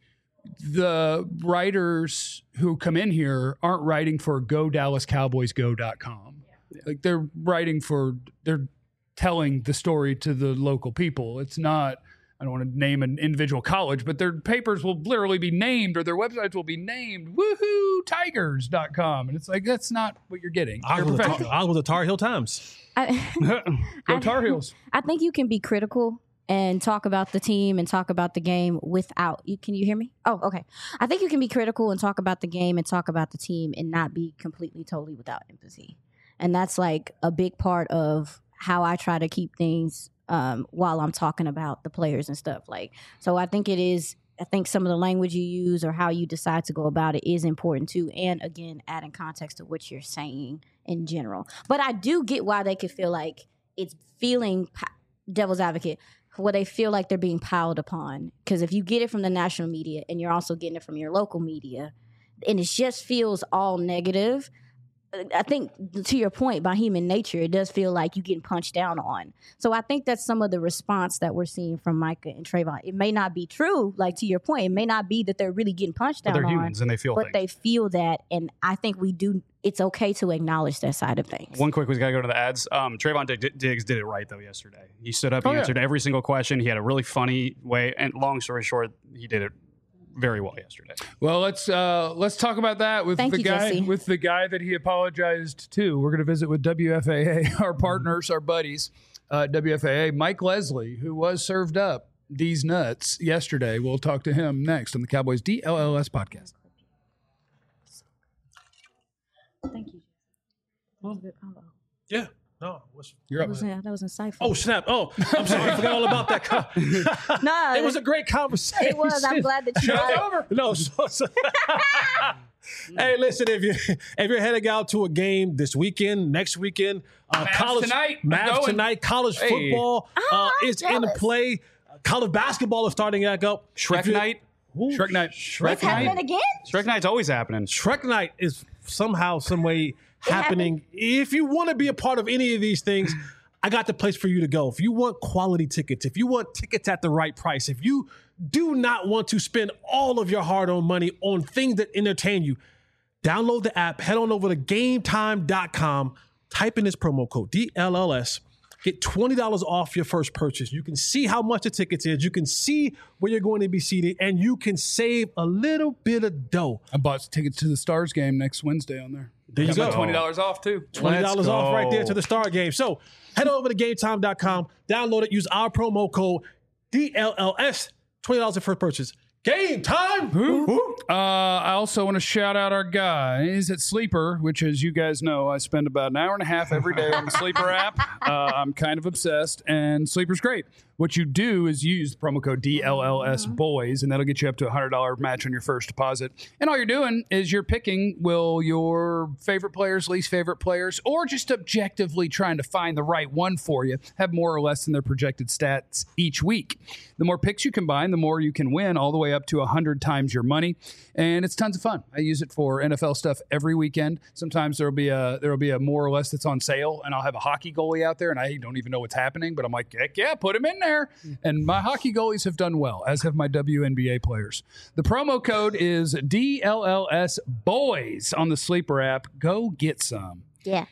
the writers who come in here aren't writing for go dallas cowboys go dot com. Yeah. Like they're writing for, they're telling the story to the local people. It's not, I don't want to name an individual college, but their papers will literally be named or their websites will be named woohoo tigers dot com. And it's like, that's not what you're getting. I was the, Tar- the Tar Heel Times. I, go Tar Heels. I think you can be critical and talk about the team and talk about the game without you. Can you hear me? Oh, okay. I think you can be critical and talk about the game and talk about the team and not be completely, totally without empathy. And that's like a big part of how I try to keep things um, while I'm talking about the players and stuff. Like, so I think it is, I think some of the language you use or how you decide to go about it is important too. And again, adding context to what you're saying in general. But I do get why they could feel like it's feeling devil's advocate, where they feel like they're being piled upon. Because if you get it from the national media and you're also getting it from your local media, and it just feels all negative, I think, to your point, by human nature, it does feel like you're getting punched down on. So I think that's some of the response that we're seeing from Micah and Trayvon. It may not be true, like to your point. It may not be that they're really getting punched down but they're on. humans and they feel But things. they feel that, and I think we do. It's okay to acknowledge that side of things. One quick, we got to go to the ads. Um, Trayvon Dig- Diggs did it right, though, yesterday. He stood up, he oh, answered yeah. every single question. He had a really funny way, and long story short, he did it very well yesterday. Well, let's uh, let's talk about that with Thank the you, guy Jesse. with the guy that he apologized to. We're going to visit with W F A A, our partners, our buddies, uh, W F A A. Mike Leslie, who was served up D's nuts yesterday. We'll talk to him next on the Cowboys D L L S podcast. Thank you. That was a good combo. Yeah. No. What's, You're That up. was, that was insightful. oh, snap. Oh, I'm sorry. I forgot all about that. Co- no, it was a great conversation. It was. I'm glad that you got it. over. No, so, so hey, listen, if you if you're heading out to a game this weekend, next weekend, uh, Mavs college tonight. I'm Mavs going. tonight, college Hey. football uh, Ah, is in jealous. play. College basketball is starting back up. Shrek If you- night. Ooh, Shrek Night. Shrek It's happening Night. again? Shrek Night's always happening. Shrek Night is somehow, some way happening. If you want to be a part of any of these things, I got the place for you to go. If you want quality tickets, if you want tickets at the right price, if you do not want to spend all of your hard-earned money on things that entertain you, download the app, head on over to game time dot com, type in this promo code, D L L S, get twenty dollars off your first purchase. You can see how much the tickets is. You can see where you're going to be seated, and you can save a little bit of dough. I bought tickets to the Stars game next Wednesday on there. There you Got my go. twenty dollars off too. twenty dollars Let's off right there go. to the Star game. So head over to game time dot com, download it, use our promo code D L L S, twenty dollars for first purchase. Game time! Uh, I also want to shout out our guys at Sleeper, which, as you guys know, I spend about an hour and a half every day on the Sleeper app. Uh, I'm kind of obsessed, and Sleeper's great. What you do is use the promo code D L L S Boys, and that'll get you up to a one hundred dollars match on your first deposit. And all you're doing is you're picking, will your favorite players, least favorite players, or just objectively trying to find the right one for you, have more or less than their projected stats each week. The more picks you combine, the more you can win, all the way up to one hundred times your money. And it's tons of fun. I use it for N F L stuff every weekend. Sometimes there'll be a there'll be a more or less that's on sale, and I'll have a hockey goalie out there, and I don't even know what's happening, but I'm like, heck yeah, put him in there. And my hockey goalies have done well, as have my W N B A players. The promo code is D L L S Boys on the Sleeper app. Go get some. Yeah.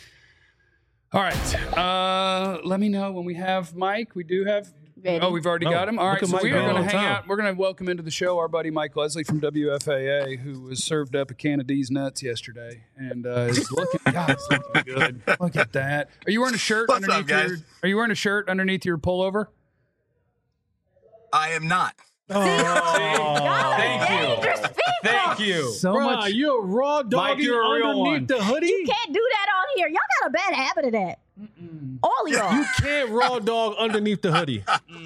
All right. Uh, let me know when we have Mike. We do have. Ready. Oh, we've already Oh, got him. All look right, at so Mike we are being going on to hang time. out. We're going to welcome into the show our buddy Mike Leslie from W F A A, who was served up a can of D's nuts yesterday, and uh, is looking. God, it's looking good. Look at that. Are you wearing a shirt What's up, underneath your? guys? Are you wearing a shirt underneath your pullover? I am not. Thank you. Thank you. So Bruh, much. you're raw dogging you're a real one. underneath the hoodie. You can't do that on here. Y'all got a bad habit of that. All of y'all. You can't raw dog underneath the hoodie.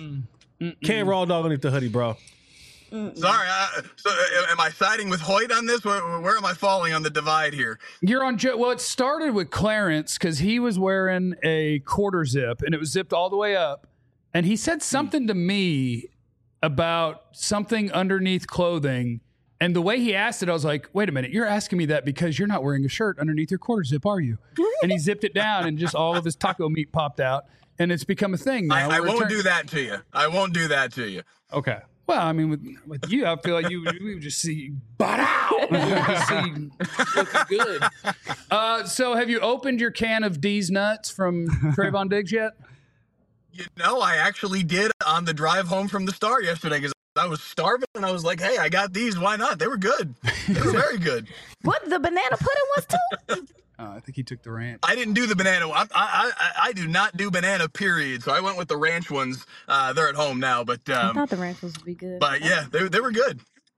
Can't raw dog underneath the hoodie, bro. Sorry. Uh, so, uh, am I siding with Hoyt on this? Where, where am I falling on the divide here? You're on. Joe. Well, it started with Clarence because he was wearing a quarter zip, and it was zipped all the way up, and he said something to me about something underneath clothing. And the way he asked it, I was like, wait a minute, you're asking me that because you're not wearing a shirt underneath your quarter zip, are you? And he zipped it down and just all of his taco meat popped out. And it's become a thing now. I, I We're won't turn- do that to you. I won't do that to you. Okay. Well, I mean, with, with you, I feel like you we would just see butt out. We would just see looking good. Uh, so have you opened your can of D's nuts from Trayvon Diggs yet? You know, I actually did on the drive home from the Star yesterday because I was starving and I was like, hey, I got these. Why not? They were good. They were very good. What, the banana pudding was too? Uh, I think he took the ranch. I didn't do the banana. I, I, I, I do not do banana, period. So I went with the ranch ones. Uh, they're at home now. But I um, thought the ranch was be good. but yeah, they, they were good.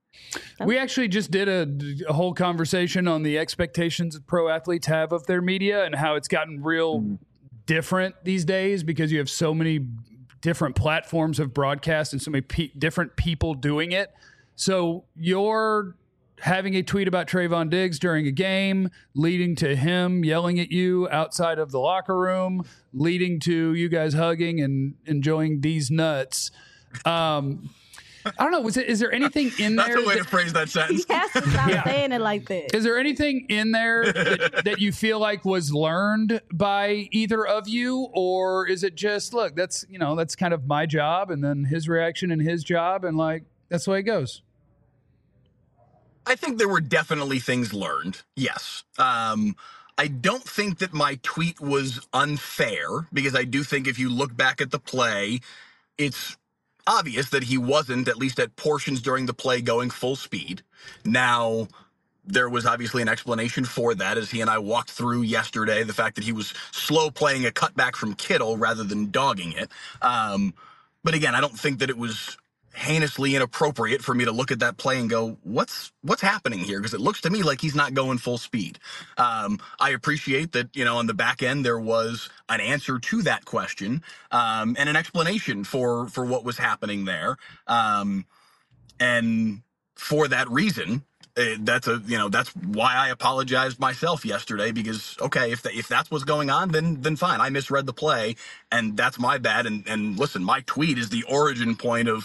We actually just did a, a whole conversation on the expectations that pro athletes have of their media and how it's gotten real different these days because you have so many different platforms of broadcast and so many pe- different people doing it. So you're having a tweet about Trayvon Diggs during a game, leading to him yelling at you outside of the locker room, leading to you guys hugging and enjoying D's nuts. Um, I don't know. Was it? Is there anything in That's there? a way that- to phrase that He sentence. has to stop saying it like that. Is there anything in there that, that you feel like was learned by either of you, or is it just look? That's you know that's kind of my job, and then his reaction and his job, and like that's the way it goes. I think there were definitely things learned. Yes. Um, I don't think that my tweet was unfair because I do think if you look back at the play, it's obvious that he wasn't, at least at portions during the play, going full speed. Now, there was obviously an explanation for that as he and I walked through yesterday, the fact that he was slow playing a cutback from Kittle rather than dogging it. Um, but again, I don't think that it was heinously inappropriate for me to look at that play and go, what's what's happening here? Because it looks to me like he's not going full speed. Um, I appreciate that, you know, on the back end, there was an answer to that question um, and an explanation for for what was happening there. Um, and for that reason, uh, that's a you know that's why I apologized myself yesterday because okay if the, if that's what's going on then then fine, I misread the play and that's my bad and and listen, my tweet is the origin point of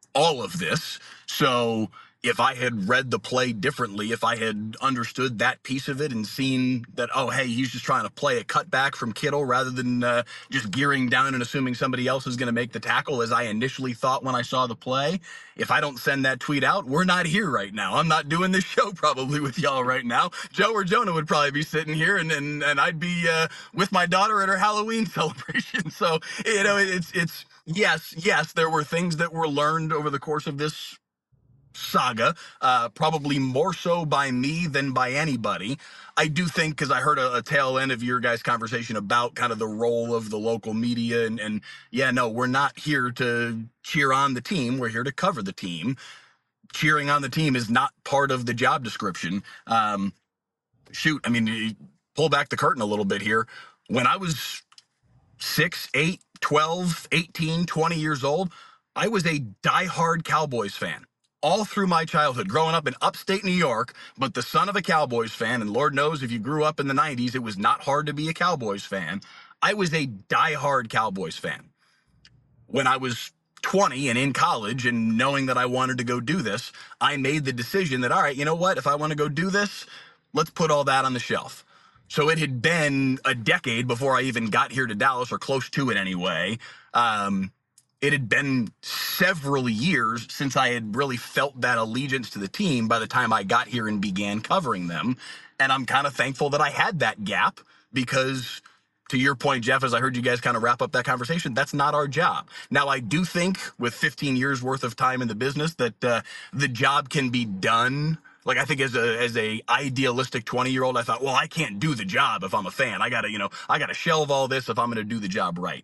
all of this. So if I had read the play differently, if I had understood that piece of it and seen that, oh, hey, he's just trying to play a cutback from Kittle rather than uh, just gearing down and assuming somebody else is going to make the tackle as I initially thought when I saw the play, if I don't send that tweet out, we're not here right now. I'm not doing this show probably with y'all right now. Joe or Jonah would probably be sitting here and and, and I'd be uh, with my daughter at her Halloween celebration. So, you know, it's, it's, yes, yes, there were things that were learned over the course of this saga, uh, probably more so by me than by anybody. I do think, because I heard a, a tail end of your guys' conversation about kind of the role of the local media, and, and yeah, no, we're not here to cheer on the team. We're here to cover the team. Cheering on the team is not part of the job description. Um, shoot, I mean, pull back the curtain a little bit here. When I was six, eight, twelve, eighteen, twenty years old, I was a diehard Cowboys fan. All through my childhood, growing up in upstate New York, but the son of a Cowboys fan, and Lord knows if you grew up in the nineties, it was not hard to be a Cowboys fan. I was a diehard Cowboys fan. When I was twenty and in college and knowing that I wanted to go do this, I made the decision that, all right, you know what? If I want to go do this, let's put all that on the shelf. So it had been a decade before I even got here to Dallas, or close to it anyway. Um, It had been several years since I had really felt that allegiance to the team by the time I got here and began covering them. And I'm kind of thankful that I had that gap because, to your point, Jeff, as I heard you guys kind of wrap up that conversation, that's not our job. Now, I do think with fifteen years worth of time in the business that uh, the job can be done. Like, I think as a as a idealistic twenty-year-old, I thought, well, I can't do the job if I'm a fan. I got to, you know, I got to shelve all this if I'm going to do the job right.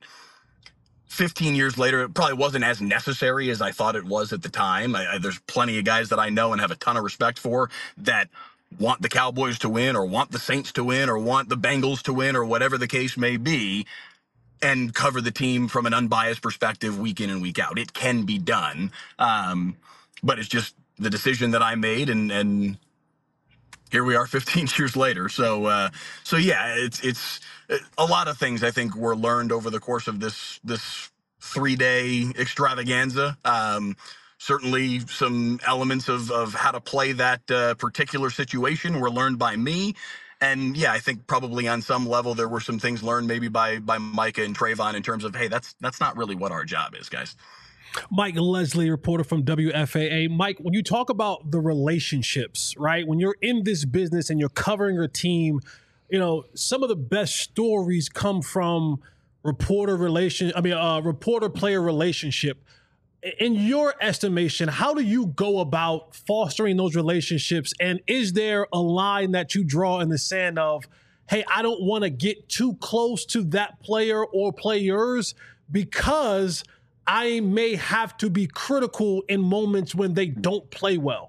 fifteen years later, it probably wasn't as necessary as I thought it was at the time. I, I, there's plenty of guys that I know and have a ton of respect for that want the Cowboys to win, or want the Saints to win, or want the Bengals to win, or whatever the case may be, and cover the team from an unbiased perspective week in and week out. It can be done. Um, but it's just the decision that I made, and, and here we are fifteen years later. So, uh, so yeah, it's, it's a lot of things I think were learned over the course of this, this three day extravaganza. Um, certainly some elements of, of how to play that uh, particular situation were learned by me. And yeah, I think probably on some level, there were some things learned maybe by, by Micah and Trayvon in terms of, hey, that's, that's not really what our job is, guys. Mike Leslie, reporter from W F A A. Mike, when you talk about the relationships, right? When you're in this business and you're covering a team, you know, some of the best stories come from reporter relation. I mean, uh, reporter player relationship. In your estimation, how do you go about fostering those relationships? And is there a line that you draw in the sand of, hey, I don't want to get too close to that player or players because I may have to be critical in moments when they don't play well?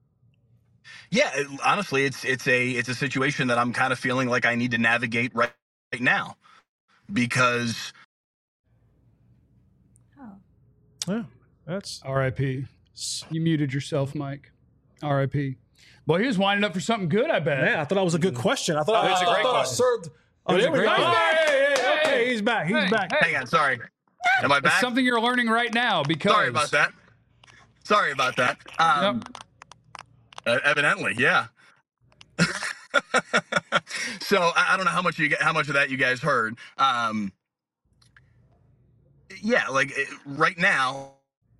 Yeah, it, honestly, it's it's a it's a situation that I'm kind of feeling like I need to navigate right, right now, because Oh. Yeah, that's R I P You muted yourself, Mike. R I P Boy, he was winding up for something good, I bet. yeah. I thought that was a good question. I thought Oh, I, it's a I great thought I question. served. Oh, was there a we great go. question. Hey, hey, okay, he's back. He's Hey, back. hey. hang on, sorry, am I It's back? something you're learning right now because Sorry about that. Sorry about that. Um, uh, evidently, yeah. So I, I don't know how much you get, how much of that you guys heard. Um, yeah, like it- right now.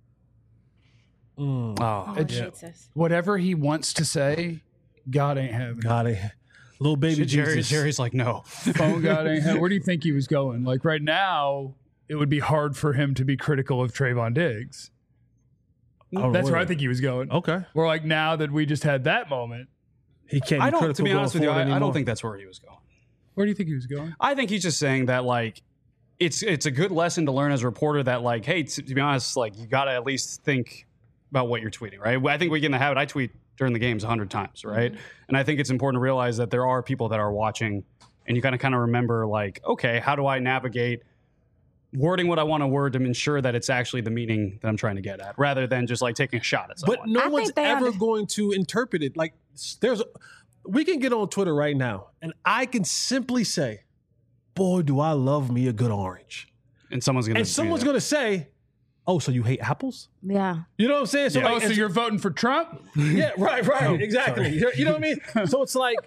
Mm, Oh, Oh, Yeah. Jesus. Whatever he wants to say, God ain't having it. got it. Little baby Jerry, Jesus. Jerry's like, no. Phone God ain't having. Where do you think he was going? Like right now, it would be hard for him to be critical of Trayvon Diggs. Oh, That's where I really? think he was going. Okay. We're like, now that we just had that moment, He can't be I don't, critical to be going honest with you, forward I, I anymore. don't think that's where he was going. where do you think he was going? I think he's just saying that, like, it's it's a good lesson to learn as a reporter that, like, hey, to, to be honest, like, you got to at least think about what you're tweeting, right? I think we get in the habit, I tweet during the games a hundred times, right? Mm-hmm. And I think it's important to realize that there are people that are watching, and you got to kind of remember, like, okay, how do I navigate wording what I want to word to ensure that it's actually the meaning that I'm trying to get at, rather than just, like, taking a shot at someone. But no I one's think they ever under- going to interpret it. Like, there's, a, we can get on Twitter right now, and I can simply say, boy, do I love me a good orange. and someone's going to And someone's going to say, oh, so you hate apples? Yeah. You know what I'm saying? So, Yeah. like, Oh, so it's- you're voting for Trump? yeah, right, right, Oh, exactly. sorry. You're- You know what I mean? So it's like,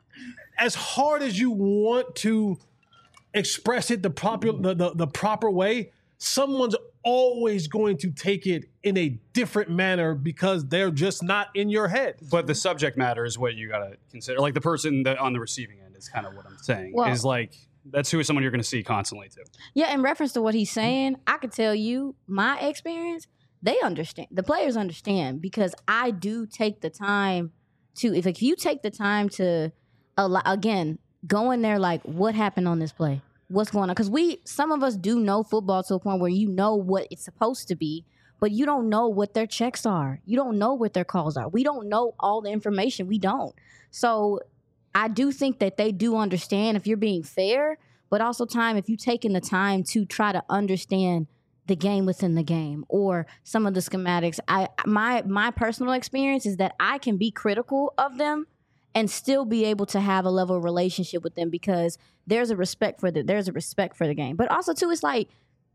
as hard as you want to express it the proper the, the, the proper way, someone's always going to take it in a different manner because they're just not in your head. But the subject matter is what you got to consider. Like the person that on the receiving end is kind of what I'm saying. Well- is like that's who someone you're going to see constantly too. Yeah, in reference to what he's saying, I could tell you my experience, they understand. The players understand because I do take the time to, if, if you take the time to, allow, again, go in there like, what happened on this play? What's going on? Because we, some of us do know football to a point where you know what it's supposed to be, but you don't know what their checks are. You don't know what their calls are. We don't know all the information. We don't. So I do think that they do understand if you're being fair, but also time if you've taken the time to try to understand the game within the game or some of the schematics. I my my personal experience is that I can be critical of them and still be able to have a level of relationship with them because there's a respect for the there's a respect for the game. But also too, it's like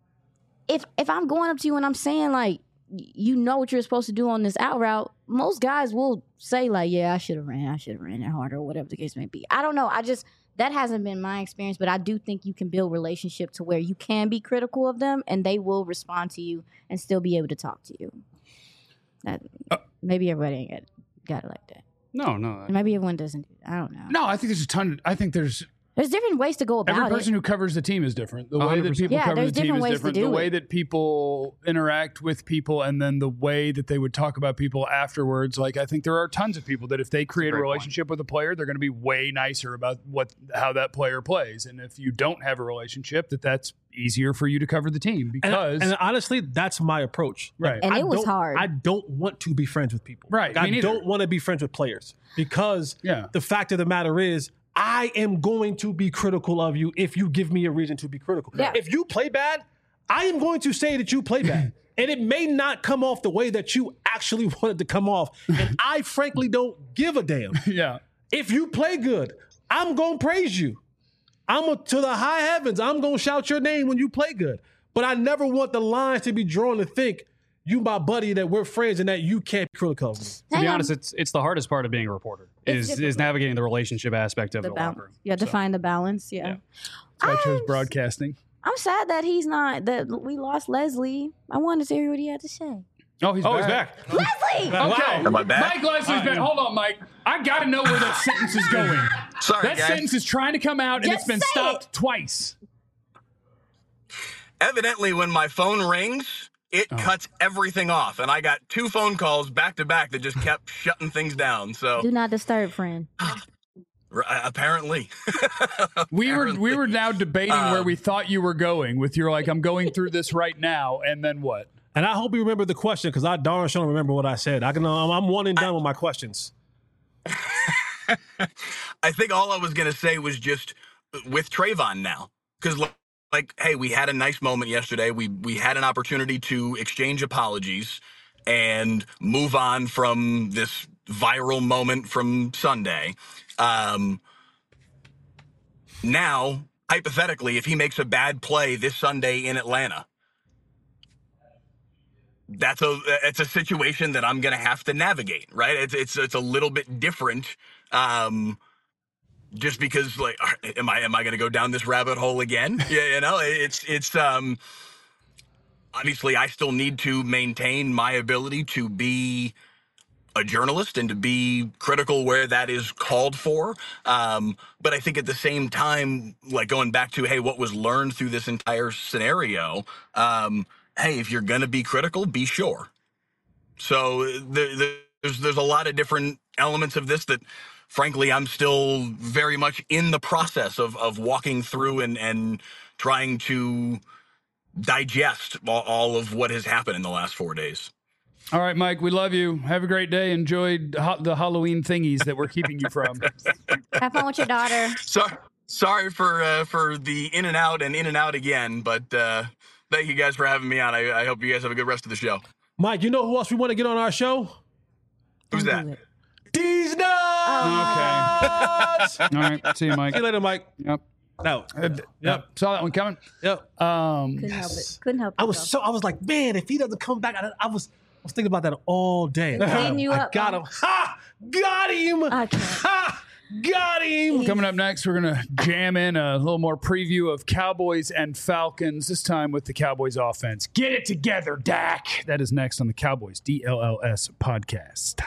if if I'm going up to you and I'm saying like you know what you're supposed to do on this out route, most guys will say like, yeah, I should have ran, I should have ran it harder, or whatever the case may be. I don't know. I just that hasn't been my experience, but I do think you can build relationship to where you can be critical of them and they will respond to you and still be able to talk to you. That maybe everybody ain't got, got it like that. No, no. Maybe everyone doesn't do that. I don't know. No, I think there's a ton. I think there's There's different ways to go about every person it. who covers the team is different. The way one hundred that percent. people Yeah, cover there's the team different is ways to different. do The way it. that people interact with people, and then the way that they would talk about people afterwards. Like I think there are tons of people that if they create a great relationship with a player, they're going to be way nicer about what how that player plays. And if you don't have a relationship, that that's easier for you to cover the team And, because and honestly, that's my approach. Right. And I it was don't- hard. I don't want to be friends with people. Right, Like, me I neither. don't want to be friends with players because Yeah. the fact of the matter is, I am going to be critical of you if you give me a reason to be critical. Yeah. If you play bad, I am going to say that you play bad. And it may not come off the way that you actually wanted to come off. And I frankly don't give a damn. yeah. If you play good, I'm going to praise you. I'm a, to the high heavens. I'm going to shout your name when you play good. But I never want the lines to be drawn to think you my buddy, that we're friends and that you can't be critical of me. To Hang be on. honest, it's it's the hardest part of being a reporter It's is difficult. is navigating the relationship aspect of the the, balance. locker room. You have to So, find the balance. Yeah. Yeah. So I chose I'm- broadcasting. I'm sad that he's not, that we lost Leslie. I wanted to hear what he had to say. Oh, he's Oh, back. he's back. Leslie! Okay. Am I back? Mike Leslie's back. Hold on, Mike. I got to know where that sentence is going. Sorry, That guys. sentence is trying to come out and Just it's been say stopped twice. Evidently, when my phone rings, it Oh. cuts everything off, and I got two phone calls back to back that just kept shutting things down. So Do not disturb, friend. r- apparently, We were we were now debating where Um, we thought you were going with your like I'm going through this right now and then what? And I hope you remember the question because I darn sure don't remember what I said. I can. I'm, I'm one and done with my questions. I think all I was gonna say was just with Trayvon now, because like, hey, we had a nice moment yesterday. We we had an opportunity to exchange apologies and move on from this viral moment from Sunday. Um, now, hypothetically, if he makes a bad play this Sunday in Atlanta, that's a it's a situation that I'm gonna have to navigate, right? It's it's it's a little bit different. Um, just because like am I am I gonna go down this rabbit hole again? Yeah, you know, it's it's um obviously I still need to maintain my ability to be a journalist and to be critical where that is called for. Um, but I think at the same time, like going back to, hey, what was learned through this entire scenario, um, hey, if you're going to be critical, be sure. So there, there's, there's a lot of different elements of this that, frankly, I'm still very much in the process of, of walking through and, and trying to digest all, all of what has happened in the last four days. All right, Mike, we love you. Have a great day. Enjoy ho- the Halloween thingies that we're keeping you from. Have fun with your daughter. Sorry, sorry for uh, for the in and out and in and out again, but uh, thank you guys for having me on. I, I hope you guys have a good rest of the show. Mike, you know who else we want to get on our show? Who's Don't that? do it. These nuts. Okay. All right. See you, Mike. See you later, Mike. Yep. No. Uh, yep. Saw that one coming. Yep. Um, Couldn't help it. Couldn't help it. I was though. so I was like, man, if he doesn't come back, I, I was I was thinking about that all day. It's hitting you I up, got Mom. him. Ha! Got him. I can't. Ha! Got him. Coming up next, we're going to jam in a little more preview of Cowboys and Falcons, this time with the Cowboys offense. Get it together, Dak. That is next on the Cowboys D L L S podcast.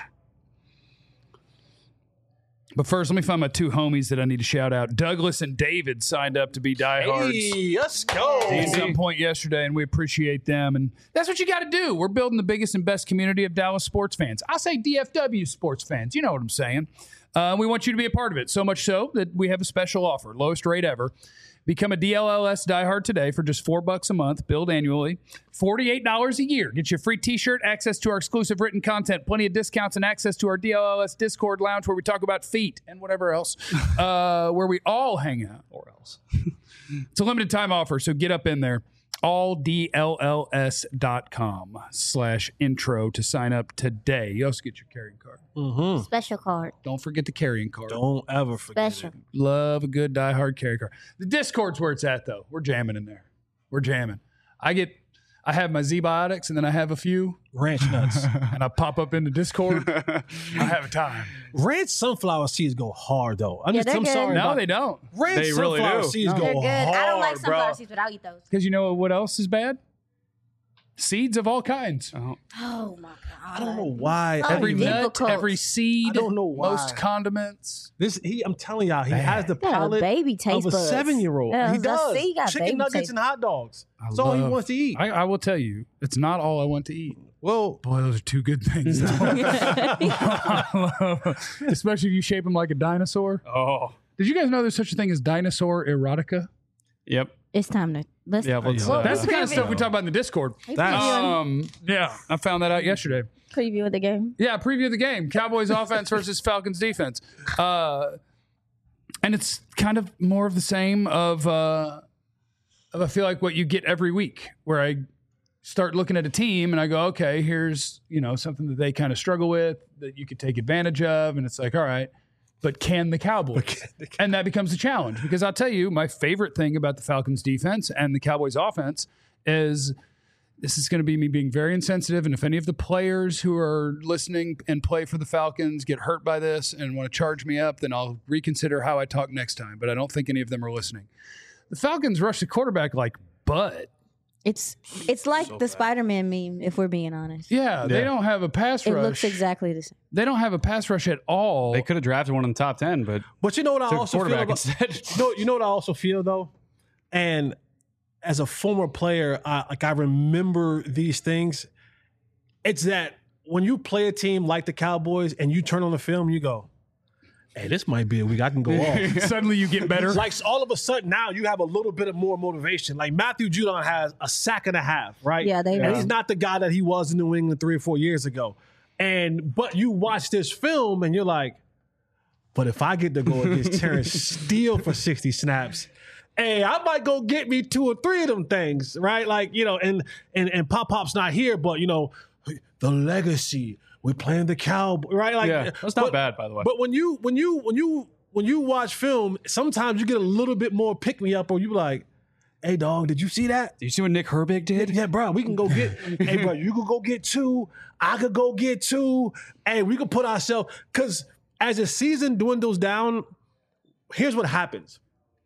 But first, let me find my two homies that I need to shout out. Douglas and David signed up to be diehards. Hey, let's go. At some point yesterday, and we appreciate them. And that's what you got to do. We're building the biggest and best community of Dallas sports fans. I say D F W sports fans. You know what I'm saying. Uh, we want you to be a part of it. So much so that we have a special offer, lowest rate ever. Become a D L L S diehard today for just four bucks a month, billed annually, forty-eight dollars a year. Get you a free T-shirt, access to our exclusive written content, plenty of discounts, and access to our D L L S Discord lounge where we talk about feet and whatever else, uh, where we all hang out. Or else. It's a limited time offer, so get up in there. all D L L S dot com slash intro to sign up today. You also get your carrying card. Mm-hmm. Special card. Don't forget the carrying card. Don't ever forget Special. it. Love a good diehard carry card. The Discord's where it's at, though. We're jamming in there. We're jamming. I get, I have my Z-Biotics, and then I have a few, Ranch nuts. and I pop up into Discord. I have a time. Ranch sunflower seeds go hard, though. I'm, Yeah, just, they're I'm good. sorry. No, about they don't. Ranch They really sunflower do. seeds No. go They're good. hard, I don't like sunflower bro. seeds, but I'll eat those. Because you know what else is bad? Seeds of all kinds. Oh. Oh my god. I don't know why. Oh, Every nut, difficult. every seed, I don't know why. most condiments. This he, I'm telling y'all, he Man. has the Got a palate baby taste of a buds. seven-year-old. Yeah, he I does. see, he got Chicken baby nuggets taste. and hot dogs. I That's all he love- wants to eat. I, I will tell you, it's not all I want to eat. well, Boy, those are two good things. Especially if you shape them like a dinosaur. Oh. Did you guys know there's such a thing as dinosaur erotica? Yep. It's time to let's. Yeah, let's, Well, uh, That's the kind of preview- stuff we talk about in the Discord. we That's- previewing, Um, yeah, I found that out yesterday. preview the game. Yeah, preview of the game: Cowboys offense versus Falcons defense. Uh, and it's kind of more of the same. Of, uh, of I feel like what you get every week, where I start looking at a team and I go, okay, here's you know something that they kind of struggle with that you could take advantage of, and it's like, all right. But can the Cowboys? And that becomes a challenge because I'll tell you, my favorite thing about the Falcons defense and the Cowboys offense is this is going to be me being very insensitive. And if any of the players who are listening and play for the Falcons get hurt by this and want to charge me up, then I'll reconsider how I talk next time. But I don't think any of them are listening. The Falcons rush the quarterback like butt. It's it's like the Spider-Man meme, if we're being honest. Yeah, they Yeah. don't have a pass It rush. looks exactly the same. They don't have a pass rush at all. They could have drafted one in the top ten, but but you know what I took a also feel quarterback about, instead. you know, you know what I also feel though, and as a former player, I, like I remember these things. It's that when you play a team like the Cowboys and you turn on the film, you go, "Hey, this might be a week I can go off." Suddenly you get better. Like all of a sudden now you have a little bit of more motivation. Like Matthew Judon has a sack and a half, right? Yeah, they And know. he's not the guy that he was in New England three or four years ago. And but you watch this film and you're like, but if I get to go against Terrence Steele for sixty snaps, hey, I might go get me two or three of them things, right? Like, you know, and and and Pop Pop's not here, but you know, the legacy. We're playing the Cowboy, right? Like, yeah, that's not but- bad, by the way. But when you when you when you when you watch film, sometimes you get a little bit more pick me up, or you be like, "Hey, dog, did you see that? Do you see what Nick Herbig did? Yeah, bro, we can go get. Hey, bro, you could go get two. I could go get two. Hey, we could put ourselves because as the season dwindles down, here's what happens.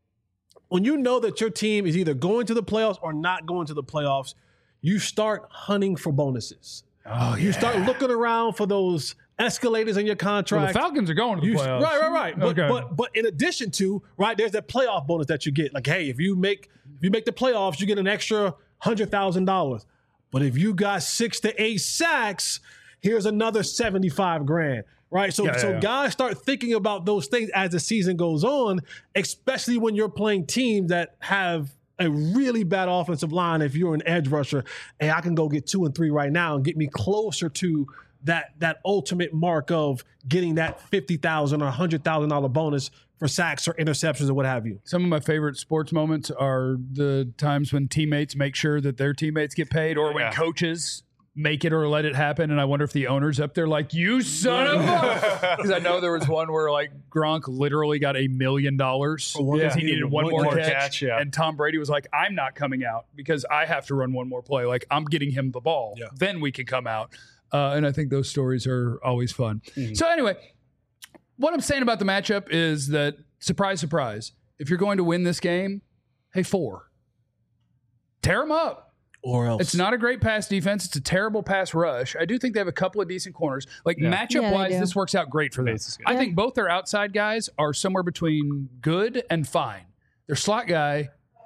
When you know that your team is either going to the playoffs or not going to the playoffs, you start hunting for bonuses. oh, You start looking around for those escalators in your Well, contract. the Falcons are going to the You- playoffs. right, right, right. But, Okay. but but in addition to right, there's that playoff bonus that you get. Like, hey, if you make if you make the playoffs, you get an extra hundred thousand dollars. But if you got six to eight sacks, here's another seventy five grand. Right. So Yeah, so yeah, yeah. guys start thinking about those things as the season goes on, especially when you're playing teams that have a really bad offensive line. If you're an edge rusher, hey, I can go get two and three right now and get me closer to that that ultimate mark of getting that fifty thousand or hundred thousand dollar bonus for sacks or interceptions or what have you. Some of my favorite sports moments are the times when teammates make sure that their teammates get paid, or when Yeah. coaches make it or let it happen. And I wonder if the owner's up there like, you son of a... Because I know there was one where like Gronk literally got a million dollars because he needed one, one more catch. catch yeah. And Tom Brady was like, I'm not coming out because I have to run one more play. Like, I'm getting him the ball. Yeah. Then we can come out. Uh, and I think those stories are always fun. Mm-hmm. So anyway, what I'm saying about the matchup is that, surprise, surprise, if you're going to win this game, hey, four. Tear them up. Or else. It's not a great pass defense. It's a terrible pass rush. I do think they have a couple of decent corners. Like, yeah. matchup-wise, yeah, this works out great for them. I yeah. think both their outside guys are somewhere between good and fine. Their slot guy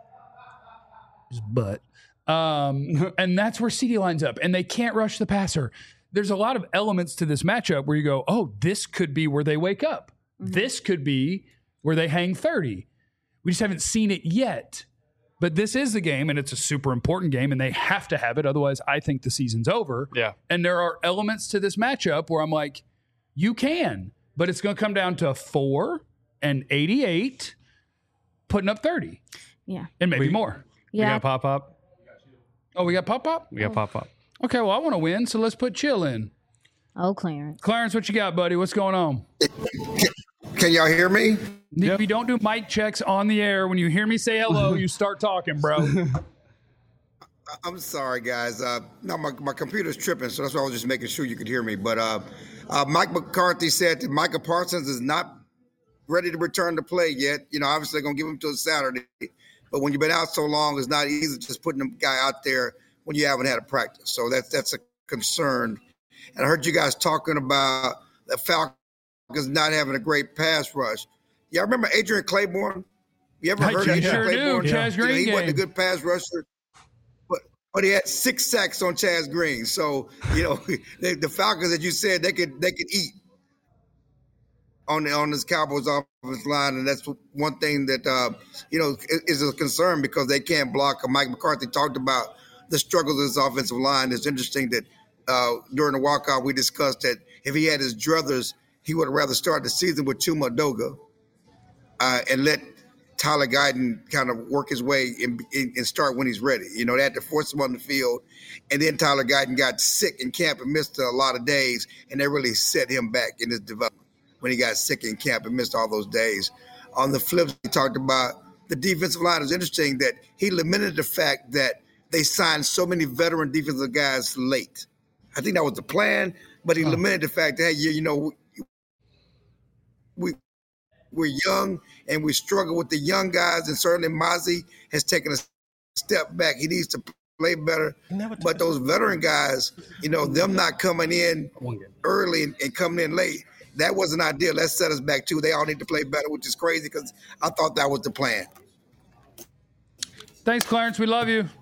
is butt. Um, and that's where CeeDee lines up. And they can't rush the passer. There's a lot of elements to this matchup where you go, oh, this could be where they wake up. Mm-hmm. This could be where they hang thirty. We just haven't seen it yet. But this is the game, and it's a super important game, and they have to have it. Otherwise, I think the season's over. Yeah. And there are elements to this matchup where I'm like, you can, but it's going to come down to four and eighty-eight, putting up thirty. Yeah. And maybe we, more. Yeah. We got pop-up. Oh, we got pop-up? We got pop-up. Okay, well, I want to win, so let's put chill in. Oh, Clarence. Clarence, what you got, buddy? What's going on? Can y'all hear me? Yep. We don't do mic checks on the air. When you hear me say hello, you start talking, bro. I'm sorry, guys. Uh, no, my, my computer's tripping, so that's why I was just making sure you could hear me. But uh, uh, Mike McCarthy said that Micah Parsons is not ready to return to play yet. You know, obviously they're going to give him till Saturday. But when you've been out so long, it's not easy just putting a guy out there when you haven't had a practice. So that's that's a concern. And I heard you guys talking about the Falcons not having a great pass rush. Y'all remember Adrian Claiborne? You ever heard of sure Claiborne? Do. Chaz Green you know, he game. wasn't a good pass rusher, but but he had six sacks on Chaz Green. So you know the, the Falcons, that you said, they could they could eat on the on this Cowboys offensive line, and that's one thing that uh, you know is a concern because they can't block. Mike McCarthy talked about the struggles of this offensive line. It's interesting that uh, during the walkout we discussed that if he had his druthers, he would have rather start the season with Chuma Edoga uh, and let Tyler Guyton kind of work his way and, and start when he's ready. You know, they had to force him on the field, and then Tyler Guyton got sick in camp and missed a lot of days, and they really set him back in his development when he got sick in camp and missed all those days. On the flip, he talked about the defensive line. It was interesting that he lamented the fact that they signed so many veteran defensive guys late. I think that was the plan, but he huh. lamented the fact that, hey, you, you know, we, we're young and we struggle with the young guys, and certainly Mazi has taken a step back. He needs to play better. But those veteran guys, you know, them not coming in early and, and coming in late, that wasn't ideal. That set us back, too. They all need to play better, which is crazy because I thought that was the plan. Thanks, Clarence. We love you.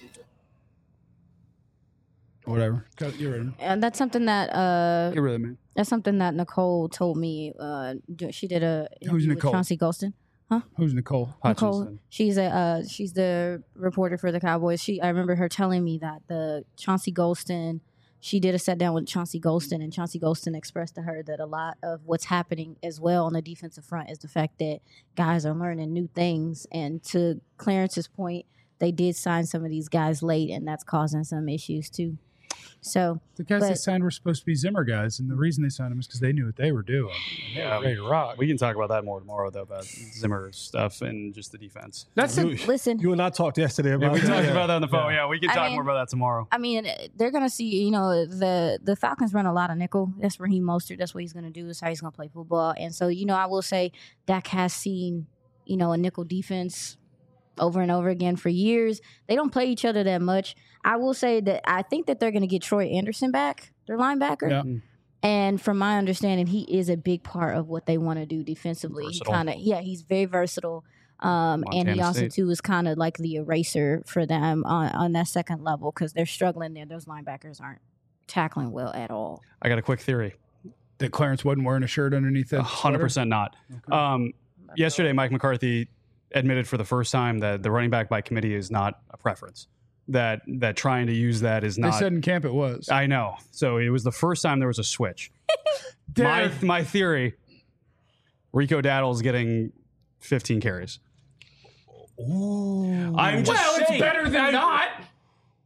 Whatever. You're ready. And that's something that uh, You're really man. That's something that Nicole told me. Uh, she did a Who's Nicole? With Chauncey Golston. Huh? Who's Nicole? Nicole. Hutchinson. She's a uh, she's the reporter for the Cowboys. She I remember her telling me that the Chauncey Golston. She did a sit down with Chauncey Golston, and Chauncey Golston expressed to her that a lot of what's happening as well on the defensive front is the fact that guys are learning new things. And to Clarence's point, they did sign some of these guys late, and that's causing some issues too. So the guys but, they signed were supposed to be Zimmer guys, and the reason they signed them is because they knew what they were doing. They yeah, were ready to rock. We can talk about that more tomorrow, though, about Zimmer stuff and just the defense. That's you, a, listen. You and I talked yesterday about yeah, we that. talked yeah. about that on the phone. Yeah, yeah we can I talk mean, more about that tomorrow. I mean, they're gonna see. You know, the the Falcons run a lot of nickel. That's Raheem Mostert. That's what he's gonna do. That's how he's gonna play football. And so, you know, I will say Dak has seen, you know, a nickel defense over and over again for years. They don't play each other that much. I will say that I think that they're going to get Troy Anderson back, their linebacker. Yeah. And from my understanding, he is a big part of what they want to do defensively. He kind of, yeah, he's very versatile. Um, and he also, State. too, is kind of like the eraser for them on, on that second level because they're struggling there. Those linebackers aren't tackling well at all. I got a quick theory. That Clarence wasn't wearing a shirt underneath that. one hundred percent not. Okay. Um, yesterday, Mike McCarthy admitted for the first time that the running back by committee is not a preference. That that trying to use that is not. They said in camp it was. I know. So it was the first time there was a switch. my my theory: Rico Daddle's getting fifteen carries. Ooh. I'm just well, saying, it's better than I'm, not.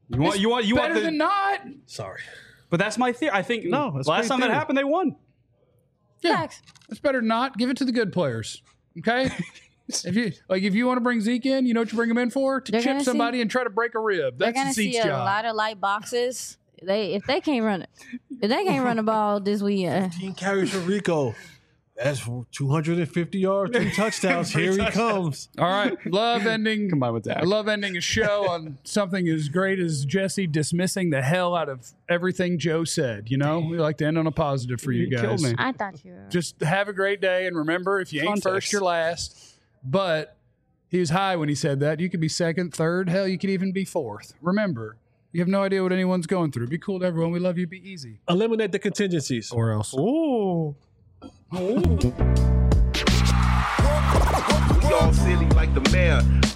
You want, you want, you better want the, than not. Sorry. But that's my theory. I think No, that's last great time theory. that happened, they won. Yeah, Facts. it's better than not. Give it to the good players. Okay. If you like, if you want to bring Zeke in, you know what you bring him in for? To They're chip gonna somebody see- and try to break a rib. They're That's gonna Zeke's see a job. lot of light boxes. They if they can't run it, if they can't run the ball this weekend, Team carries for Rico. That's two hundred fifty yards, three touchdowns. Here he comes. All right, love ending. Combined with Dak. I love ending a show on something as great as Jesse dismissing the hell out of everything Joe said. You know, we like to end on a positive for you You killed guys. me. I thought you were. Just have a great day, and remember, if you ain't Context. first, you're last. But he was high when he said that. You could be second, third, hell, you could even be fourth. Remember, you have no idea what anyone's going through. Be cool to everyone. We love you. Be easy. Eliminate the contingencies. Or else. Ooh. We all silly like the mayor.